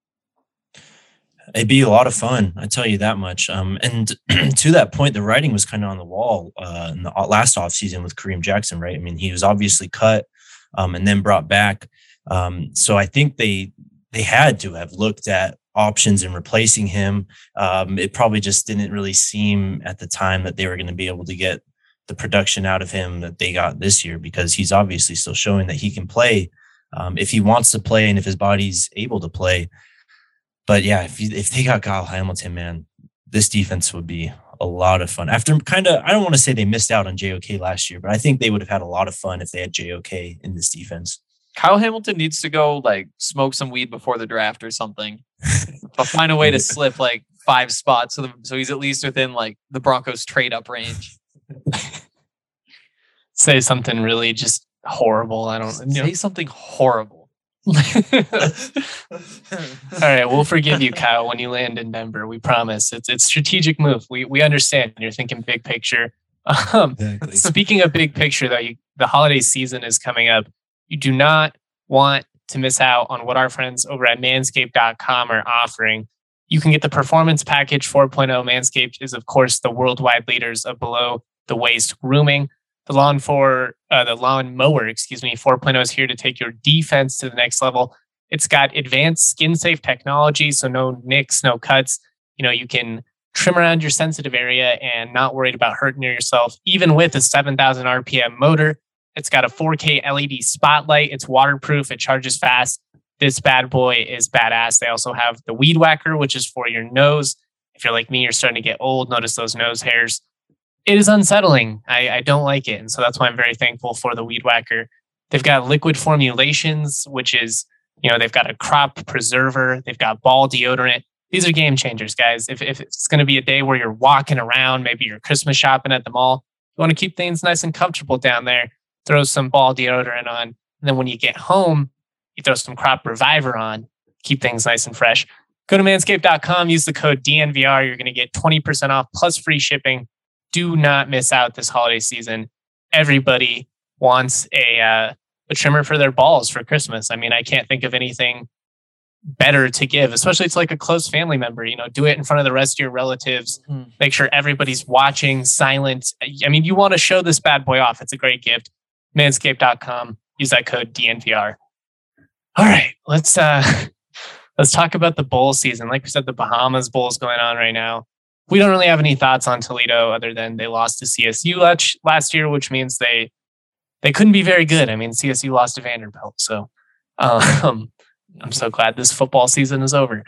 C: It'd be a lot of fun, I tell you that much. Um, and to that point, the writing was kind of on the wall uh, in the last offseason with Kareem Jackson, right? I mean, he was obviously cut um, and then brought back. Um, so I think they they had to have looked at options in replacing him. Um, it probably just didn't really seem at the time that they were going to be able to get the production out of him that they got this year, because he's obviously still showing that he can play um, if he wants to play and if his body's able to play. But yeah, if you, if they got Kyle Hamilton, man, this defense would be a lot of fun. After kind of, I don't want to say they missed out on J O K last year, but I think they would have had a lot of fun if they had J O K in this defense.
B: Kyle Hamilton needs to go like smoke some weed before the draft or something, but find a way to slip like five spots so the, so he's at least within like the Broncos trade up range.
A: Say something really just horrible. I don't know.
B: Say something horrible.
A: All right, we'll forgive you, Kyle, when you land in Denver. We promise. It's it's strategic move. We we understand. You're thinking big picture. Um,
C: Exactly.
A: Speaking of big picture, though, you, the holiday season is coming up. You do not want to miss out on what our friends over at manscaped dot com are offering. You can get the Performance Package four point oh. Manscaped is, of course, the worldwide leaders of below the waist grooming. The lawn for uh, the lawn mower, excuse me, four point oh is here to take your defense to the next level. It's got advanced skin safe technology, so no nicks, no cuts. You know, you can trim around your sensitive area and not worried about hurting yourself, even with a seven thousand R P M motor. It's got a four K L E D spotlight. It's waterproof. It charges fast. This bad boy is badass. They also have the Weed Whacker, which is for your nose. If you're like me, you're starting to get old. Notice those nose hairs. It is unsettling. I, I don't like it. And so that's why I'm very thankful for the Weed Whacker. They've got liquid formulations, which is, you know, they've got a crop preserver. They've got ball deodorant. These are game changers, guys. If, if it's going to be a day where you're walking around, maybe you're Christmas shopping at the mall, you want to keep things nice and comfortable down there, throw some ball deodorant on. And then when you get home, you throw some Crop Reviver on, keep things nice and fresh. Go to manscaped dot com, use the code D N V R. You're going to get twenty percent off plus free shipping. Do not miss out this holiday season. Everybody wants a uh, a trimmer for their balls for Christmas. I mean, I can't think of anything better to give, especially to like a close family member. You know, do it in front of the rest of your relatives. Mm. Make sure everybody's watching, silent. I mean, you want to show this bad boy off. It's a great gift. manscaped dot com. Use that code D N V R. All right, let's uh, let's talk about the bowl season. Like we said, the Bahamas Bowl is going on right now. We don't really have any thoughts on Toledo other than they lost to C S U last last year, which means they they couldn't be very good. I mean, C S U lost to Vanderbilt, so um, I'm so glad this football season is over.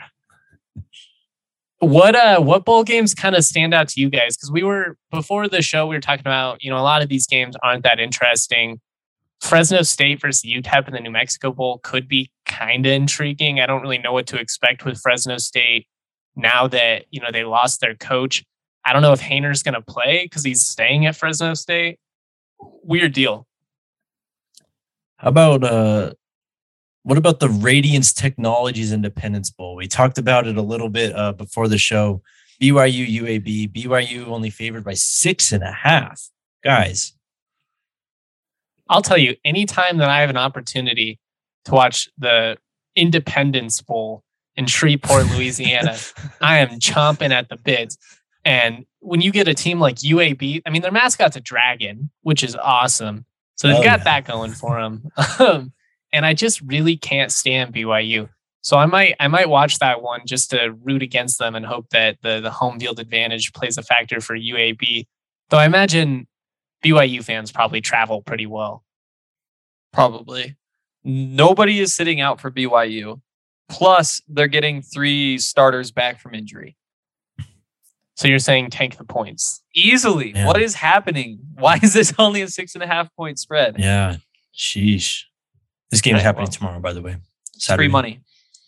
A: What uh, what bowl games kind of stand out to you guys? Because we were before the show, we were talking about, you know, a lot of these games aren't that interesting. Fresno State versus U T E P in the New Mexico Bowl could be kind of intriguing. I don't really know what to expect with Fresno State now that, you know, they lost their coach. I don't know if Hayner's going to play because he's staying at Fresno State. Weird deal.
C: How about uh, what about the Radiance Technologies Independence Bowl? We talked about it a little bit uh, before the show. B Y U U A B. B Y U only favored by six and a half. Guys.
A: I'll tell you, anytime that I have an opportunity to watch the Independence Bowl in Shreveport, Louisiana, I am chomping at the bits. And when you get a team like U A B, I mean, their mascot's a dragon, which is awesome. So they've oh, got yeah. that going for them. Um, and I just really can't stand B Y U. So I might I might watch that one just to root against them and hope that the, the home field advantage plays a factor for U A B. Though I imagine B Y U fans probably travel pretty well.
B: Probably. Nobody is sitting out for B Y U. Plus, they're getting three starters back from injury.
A: So you're saying tank the points?
B: Easily. Yeah. What is happening? Why is this only a six and a half point spread?
C: Yeah. Sheesh. This game is happening well, tomorrow, by the way.
B: Saturday. Free money.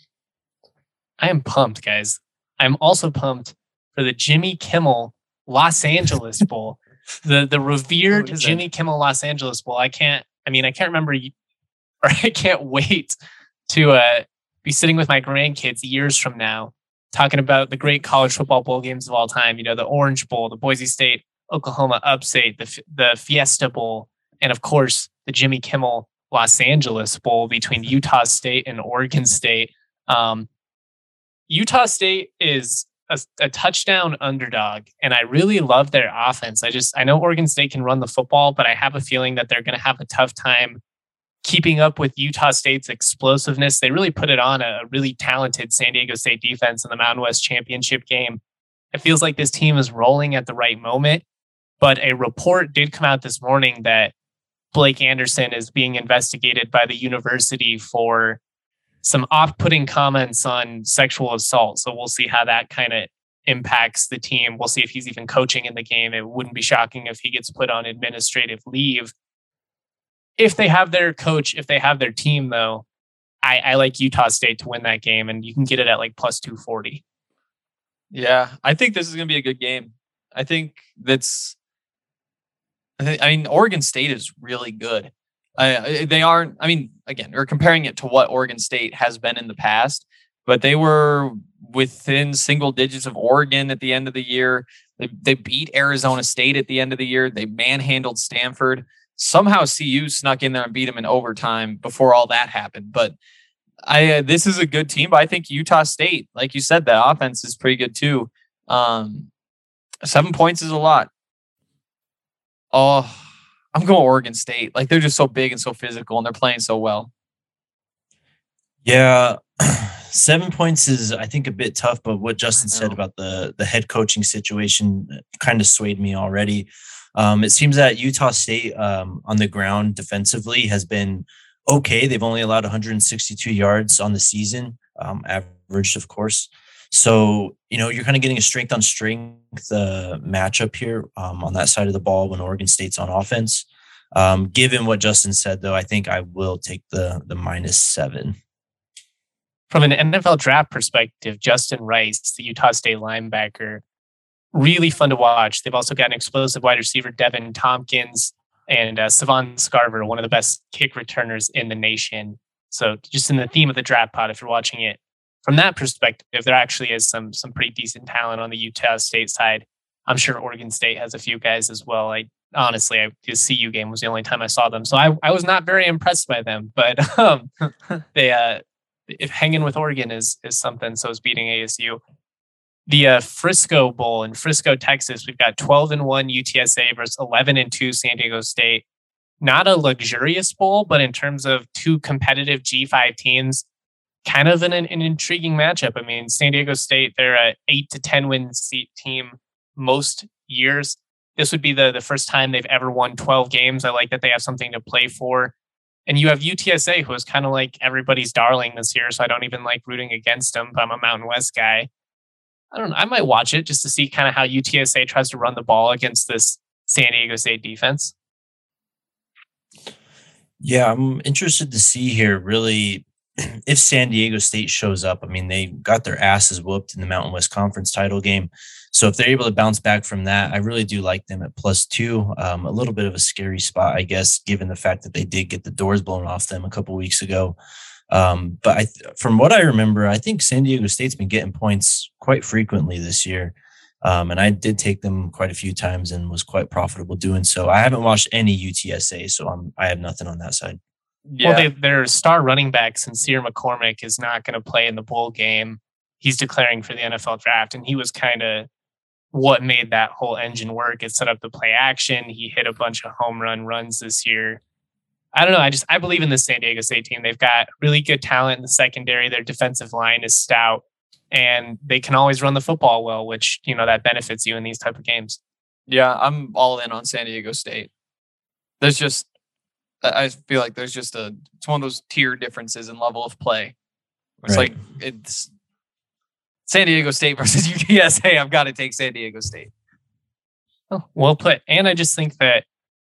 A: I am pumped, guys. I'm also pumped for the Jimmy Kimmel Los Angeles Bowl. The the revered Jimmy that? Kimmel Los Angeles Bowl. I can't, I mean, I can't remember, or I can't wait to uh, be sitting with my grandkids years from now talking about the great college football bowl games of all time. You know, the Orange Bowl, the Boise State, Oklahoma Upstate, the the Fiesta Bowl, and of course, the Jimmy Kimmel Los Angeles Bowl between Utah State and Oregon State. Um, Utah State is a, a touchdown underdog, and I really love their offense. I just, I know Oregon State can run the football, but I have a feeling that they're going to have a tough time keeping up with Utah State's explosiveness. They really put it on a really talented San Diego State defense in the Mountain West Championship game. It feels like this team is rolling at the right moment, but a report did come out this morning that Blake Anderson is being investigated by the university for some off-putting comments on sexual assault. So we'll see how that kind of impacts the team. We'll see if he's even coaching in the game. It wouldn't be shocking if he gets put on administrative leave. If they have their coach, if they have their team, though, I, I like Utah State to win that game, and you can get it at like plus two forty.
B: Yeah, I think this is going to be a good game. I think that's, I, think, I mean, Oregon State is really good. Uh, they aren't, I mean, again, we're comparing it to what Oregon State has been in the past, but they were within single digits of Oregon at the end of the year. They, they beat Arizona State at the end of the year. They manhandled Stanford. Somehow C U snuck in there and beat them in overtime before all that happened. But I uh, this is a good team, but I think Utah State, like you said, that offense is pretty good too. Um, seven points is a lot. Oh, I'm going Oregon State. Like they're just so big and so physical, and they're playing so well.
C: Yeah, seven points is, I think, a bit tough. But what Justin said about the the head coaching situation kind of swayed me already. Um, it seems that Utah State um, on the ground defensively has been okay. They've only allowed one hundred sixty-two yards on the season, um, averaged, of course. So, you know, you're kind of getting a strength on strength uh, matchup here um, on that side of the ball when Oregon State's on offense. Um, given what Justin said, though, I think I will take the the minus seven.
A: From an N F L draft perspective, Justin Rice, the Utah State linebacker, really fun to watch. They've also got an explosive wide receiver, Devin Tompkins, and uh, Savon Scarver, one of the best kick returners in the nation. So just in the theme of the draft pod, if you're watching it from that perspective, there actually is some some pretty decent talent on the Utah State side. I'm sure Oregon State has a few guys as well. I honestly, I, the C U game was the only time I saw them, so I, I was not very impressed by them. But um, they, uh, if hanging with Oregon is is something, so is beating A S U. The uh, Frisco Bowl in Frisco, Texas, we've got twelve and one U T S A versus eleven and two San Diego State. Not a luxurious bowl, but in terms of two competitive G five teams, kind of an, an intriguing matchup. I mean, San Diego State, they're a eight to ten win seat team most years. This would be the, the first time they've ever won twelve games. I like that they have something to play for. And you have U T S A, who is kind of like everybody's darling this year, so I don't even like rooting against them, but I'm a Mountain West guy. I don't know. I might watch it just to see kind of how U T S A tries to run the ball against this San Diego State defense.
C: Yeah, I'm interested to see here, really, if San Diego State shows up. I mean, they got their asses whooped in the Mountain West Conference title game. So if they're able to bounce back from that, I really do like them at plus two. Um, a little bit of a scary spot, I guess, given the fact that they did get the doors blown off them a couple weeks ago. Um, but I, from what I remember, I think San Diego State's been getting points quite frequently this year. Um, and I did take them quite a few times and was quite profitable doing so. I haven't watched any U T S A, so I'm, I have nothing on that side.
A: Yeah. Well, they, their star running back, Sincere McCormick, is not going to play in the bowl game. He's declaring for the N F L draft, and he was kind of what made that whole engine work. It set up the play action. He hit a bunch of home run runs this year. I don't know. I just, I believe in the San Diego State team. They've got really good talent in the secondary. Their defensive line is stout, and they can always run the football well, which, you know, that benefits you in these type of games.
B: Yeah, I'm all in on San Diego State. There's just, I feel like there's just a, it's one of those tier differences in level of play. It's right. like, it's San Diego State versus U T S A. I've got to take San Diego State.
A: Oh, well put. And I just think that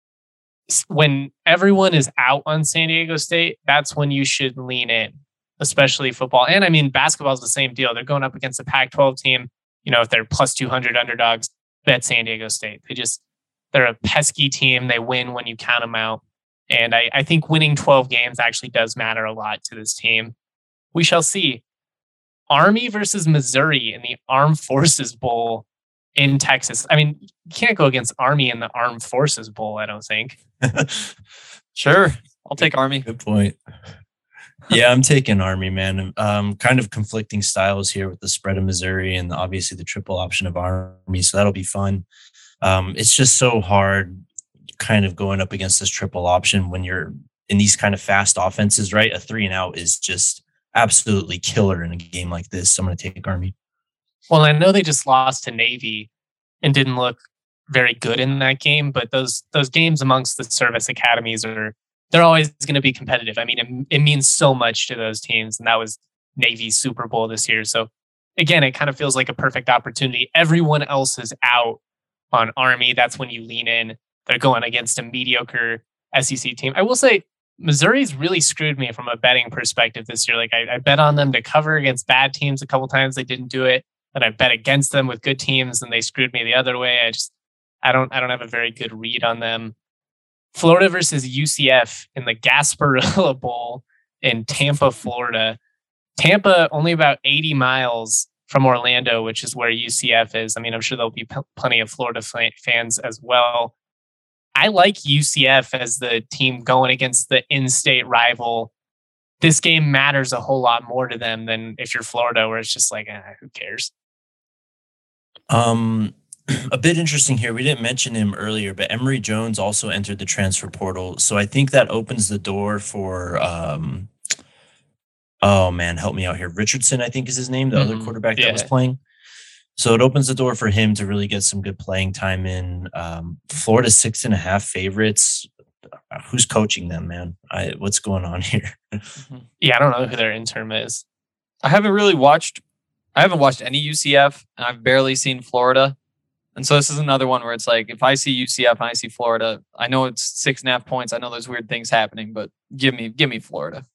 A: when everyone is out on San Diego State, that's when you should lean in, especially football. And I mean, basketball is the same deal. They're going up against a Pac twelve team. You know, if they're plus two hundred underdogs, bet San Diego State. They just, they're a pesky team. They win when you count them out. And I, I think winning twelve games actually does matter a lot to this team. We shall see. Army versus Missouri in the Armed Forces Bowl in Texas. I mean, you can't go against Army in the Armed Forces Bowl, I don't think.
B: Sure. I'll take Army.
C: Good point. Yeah, I'm taking Army, man. Um, kind of conflicting styles here with the spread of Missouri and obviously the triple option of Army. So that'll be fun. Um, it's just so hard kind of going up against this triple option when you're in these kind of fast offenses, right? A three and out is just absolutely killer in a game like this. So I'm going to take Army.
A: Well, I know they just lost to Navy and didn't look very good in that game, but those those games amongst the service academies are, they're always going to be competitive. I mean, it, it means so much to those teams, and that was Navy's Super Bowl this year. So again, it kind of feels like a perfect opportunity. Everyone else is out on Army. That's when you lean in. They're going against a mediocre S E C team. I will say Missouri's really screwed me from a betting perspective this year. Like I, I bet on them to cover against bad teams a couple times. They didn't do it. Then I bet against them with good teams and they screwed me the other way. I just, I don't, I don't have a very good read on them. Florida versus U C F in the Gasparilla Bowl in Tampa, Florida. Tampa only about eighty miles from Orlando, which is where U C F is. I mean, I'm sure there'll be p- plenty of Florida f- fans as well. I like U C F as the team going against the in-state rival this game matters a whole lot more to them than if you're Florida, where it's just like, eh, who cares?
C: Um, a bit interesting here. We didn't mention him earlier, but Emory Jones also entered the transfer portal. So I think that opens the door for, um, oh man, help me out here. Richardson, I think is his name, the mm-hmm. other quarterback yeah. that was playing. So it opens the door for him to really get some good playing time in. Um, Florida six and a half favorites. Who's coaching them, man? I, what's going on here?
A: Yeah, I don't know who their interim is.
B: I haven't really watched. I haven't watched any U C F, and I've barely seen Florida. And so this is another one where it's like, if I see U C F and I see Florida, I know it's six and a half points. I know there's weird things happening, but give me, give me Florida.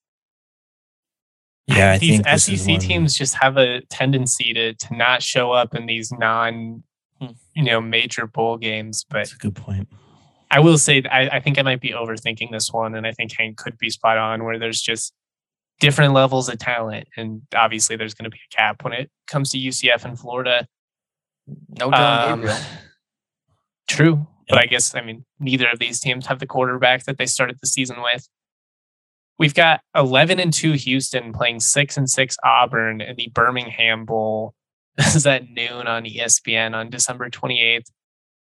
C: Yeah, I
A: these
C: think
A: S E C teams just have a tendency to to not show up in these non, you know, major bowl games. But
C: that's a good point.
A: I will say, I, I think I might be overthinking this one, and I think Hank could be spot on, where there's just different levels of talent, and obviously there's going to be a cap when it comes to U C F and Florida.
B: No Dillon Gabriel.
A: True, yep. But I guess I mean neither of these teams have the quarterback that they started the season with. We've got eleven and two Houston playing six and six Auburn in the Birmingham Bowl. This is at noon on E S P N on December twenty-eighth.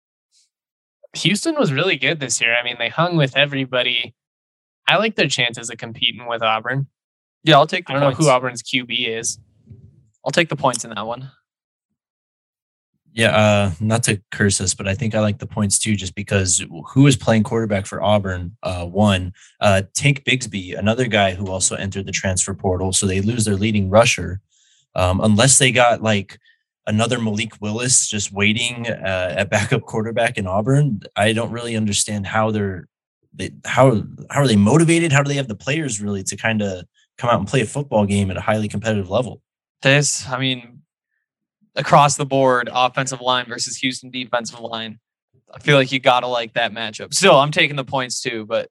A: Houston was really good this year. I mean, they hung with everybody. I like their chances of competing with Auburn.
B: Yeah, I'll take the
A: I don't
B: points.
A: know who Auburn's Q B is.
B: I'll take the points in that one.
C: Yeah, uh, not to curse us, but I think I like the points too, just because who is playing quarterback for Auburn? Uh, one, uh, Tank Bigsby, another guy who also entered the transfer portal. So they lose their leading rusher. Um, unless they got like another Malik Willis just waiting uh, at backup quarterback in Auburn, I don't really understand how they're, they, how, how are they motivated? How do they have the players really to kind of come out and play a football game at a highly competitive level?
B: This, I mean, across the board, offensive line versus Houston defensive line. I feel like you gotta like that matchup. Still, I'm taking the points too, but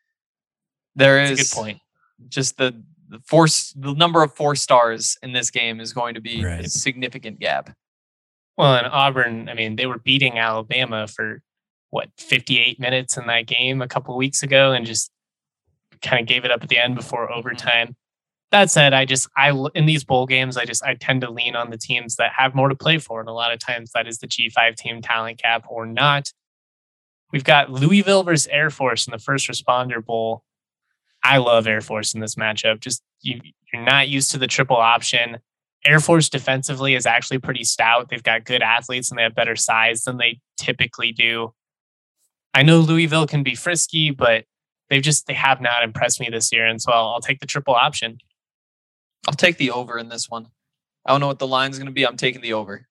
B: there is
A: That's a good point.
B: Just the the force, the number of four stars in this game is going to be
C: right.
B: a significant gap.
A: Well, in Auburn, I mean, they were beating Alabama for what fifty-eight minutes in that game a couple of weeks ago, and just kind of gave it up at the end before overtime. Mm-hmm. That said, I just, I, in these bowl games, I just, I tend to lean on the teams that have more to play for. And a lot of times that is the G five team talent cap or not. We've got Louisville versus Air Force in the First Responder Bowl. I love Air Force in this matchup. Just, you, you're not used to the triple option. Air Force defensively is actually pretty stout. They've got good athletes and they have better size than they typically do. I know Louisville can be frisky, but they've just, they have not impressed me this year. And so I'll, I'll take the triple option.
B: I'll take the over in this one. I don't know what the line's going to be. I'm taking the over.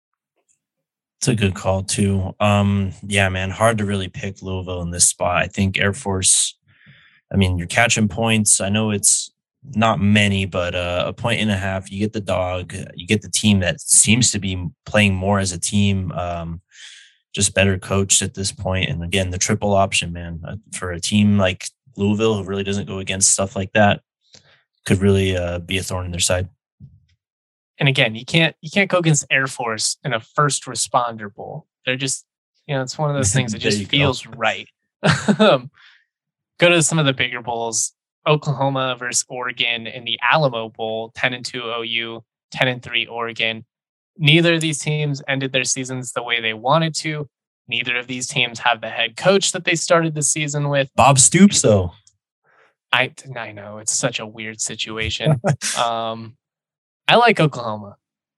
C: It's a good call too. Um, yeah, man, hard to really pick Louisville in this spot. I think Air Force, I mean, you're catching points. I know it's not many, but uh, a point and a half, you get the dog, you get the team that seems to be playing more as a team, um, just better coached at this point. And again, the triple option, man, uh, for a team like Louisville who really doesn't go against stuff like that, could really uh, be a thorn in their side.
A: And again, you can't you can't go against Air Force in a First Responder Bowl. They're just, you know, it's one of those things that just feels go. right. Go to some of the bigger bowls. Oklahoma versus Oregon in the Alamo Bowl, ten and two O U, ten and three Oregon. Neither of these teams ended their seasons the way they wanted to. Neither of these teams have the head coach that they started the season with.
C: Bob Stoops, though.
A: I, I know it's such a weird situation. um, I like Oklahoma.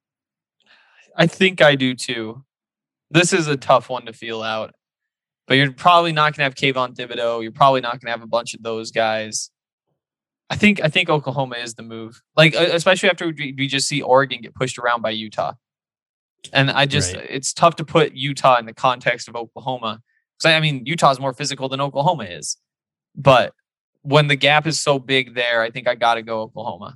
B: I think I do too. This is a tough one to feel out, but you're probably not going to have Kayvon Thibodeau. You're probably not going to have a bunch of those guys. I think I think Oklahoma is the move. Like especially after we just see Oregon get pushed around by Utah, and I just right. it's tough to put Utah in the context of Oklahoma. Because I mean Utah's more physical than Oklahoma is, but when the gap is so big there, I think I got to go Oklahoma.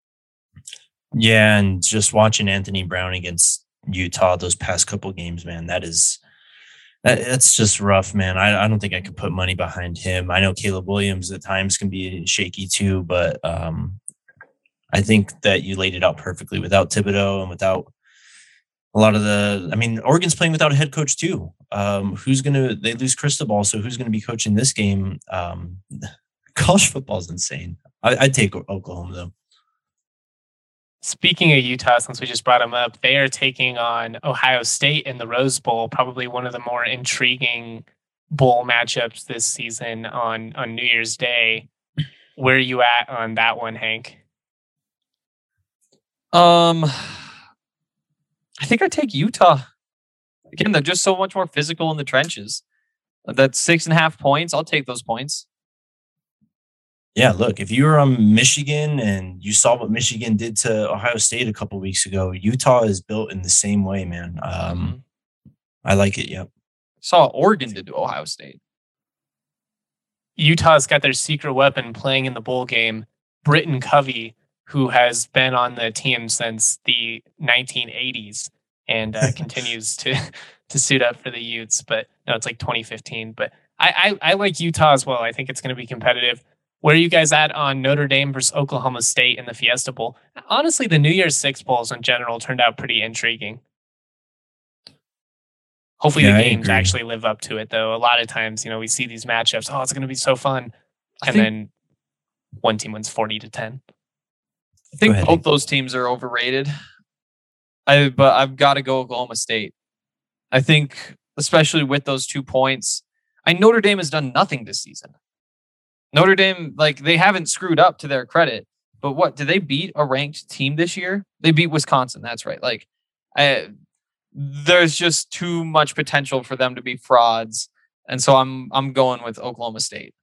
C: Yeah, and just watching Anthony Brown against Utah those past couple games, man, that is that, that's just rough, man. I, I don't think I could put money behind him. I know Caleb Williams at times can be shaky too, but um, I think that you laid it out perfectly without Thibodeau and without a lot of the. I mean, Oregon's playing without a head coach too. Um, who's gonna? They lose Cristobal, so who's gonna be coaching this game? Um, College football is insane. I, I'd take Oklahoma though.
A: Speaking of Utah, since we just brought them up, they are taking on Ohio State in the Rose Bowl, probably one of the more intriguing bowl matchups this season on, on New Year's Day. Where are you at on that one, Hank?
B: Um, I think I take Utah. Again, they're just so much more physical in the trenches. That's six and a half points. I'll take those points.
C: Yeah, look, if you were on Michigan and you saw what Michigan did to Ohio State a couple weeks ago, Utah is built in the same way, man. Um, mm-hmm. I like it. Yep.
B: Saw Oregon did to Ohio State.
A: Utah's got their secret weapon playing in the bowl game, Britton Covey, who has been on the team since the nineteen eighties and uh, continues to to suit up for the Utes. But no, it's like twenty fifteen. But I, I, I like Utah as well. I think it's going to be competitive. Where are you guys at on Notre Dame versus Oklahoma State in the Fiesta Bowl? Honestly, the New Year's Six Bowls in general turned out pretty intriguing. Hopefully
C: yeah,
A: the games actually live up to it, though. A lot of times, you know, we see these matchups. Oh, it's going to be so fun. And then one team wins forty to ten.
B: I think both those teams are overrated. I But I've got to go Oklahoma State. I think, especially with those two points, I Notre Dame has done nothing this season. Notre Dame, like, they haven't screwed up to their credit. But what, did they beat a ranked team this year? They beat Wisconsin. That's right. Like, I, there's just too much potential for them to be frauds. And so I'm I'm going with Oklahoma State.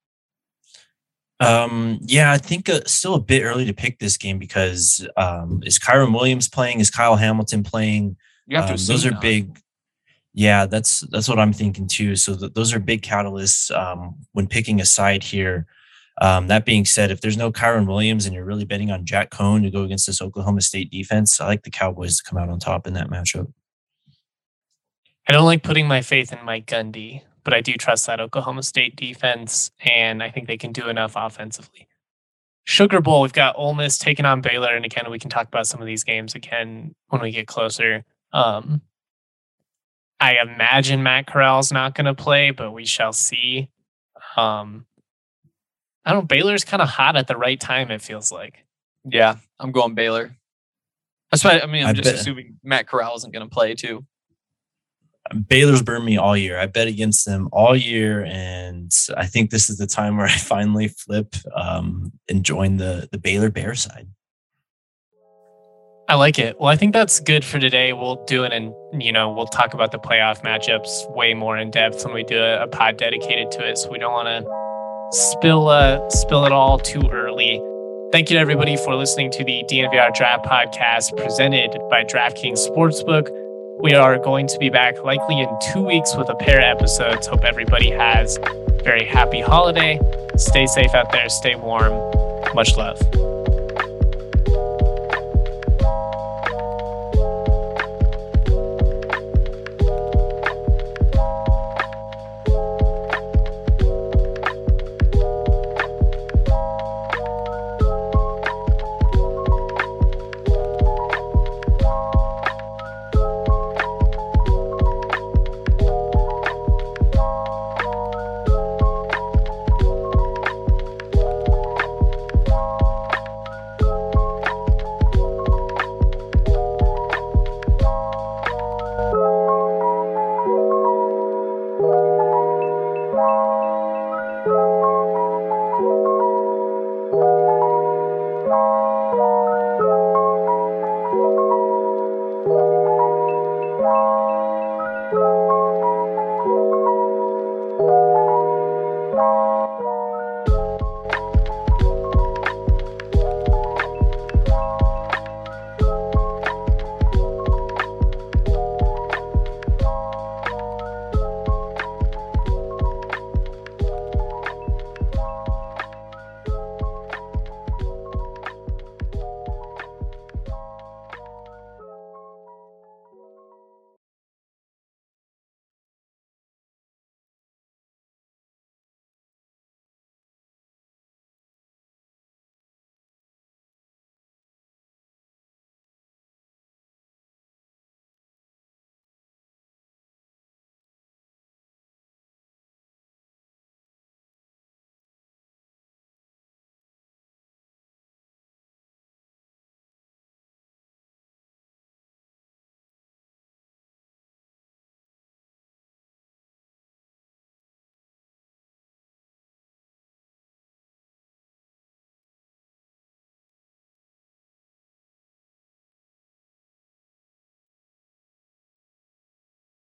C: Um, yeah, I think uh, still a bit early to pick this game because um, is Kyron Williams playing? Is Kyle Hamilton playing?
B: You have to
C: um, those are
B: not.
C: big. Yeah, that's that's what I'm thinking too. So th- those are big catalysts um, when picking a side here. Um, that being said, if there's no Kyron Williams and you're really betting on Jack Cohn to go against this Oklahoma State defense, I like the Cowboys to come out on top in that matchup.
A: I don't like putting my faith in Mike Gundy, but I do trust that Oklahoma State defense, and I think they can do enough offensively. Sugar Bowl, we've got Ole Miss taking on Baylor, and again, we can talk about some of these games again when we get closer. Um, I imagine Matt Corral's not going to play, but we shall see. Um, I don't know, Baylor's kind of hot at the right time, it feels like.
B: Yeah, I'm going Baylor. Especially, I mean, I'm
C: I
B: just
C: bet.
B: assuming Matt Corral isn't going to play too.
C: Baylor's burned me all year. I bet against them all year, and I think this is the time where I finally flip um, and join the the Baylor Bear side.
A: I like it. Well, I think that's good for today. We'll do it, and you know, we'll talk about the playoff matchups way more in depth when we do a, a pod dedicated to it. So we don't want to spill uh, spill it all too early. Thank you to everybody for listening to the D N V R Draft Podcast presented by DraftKings Sportsbook. We are going to be back likely in two weeks with a pair of episodes. Hope everybody has a very happy holiday. Stay safe out there. Stay warm. Much love.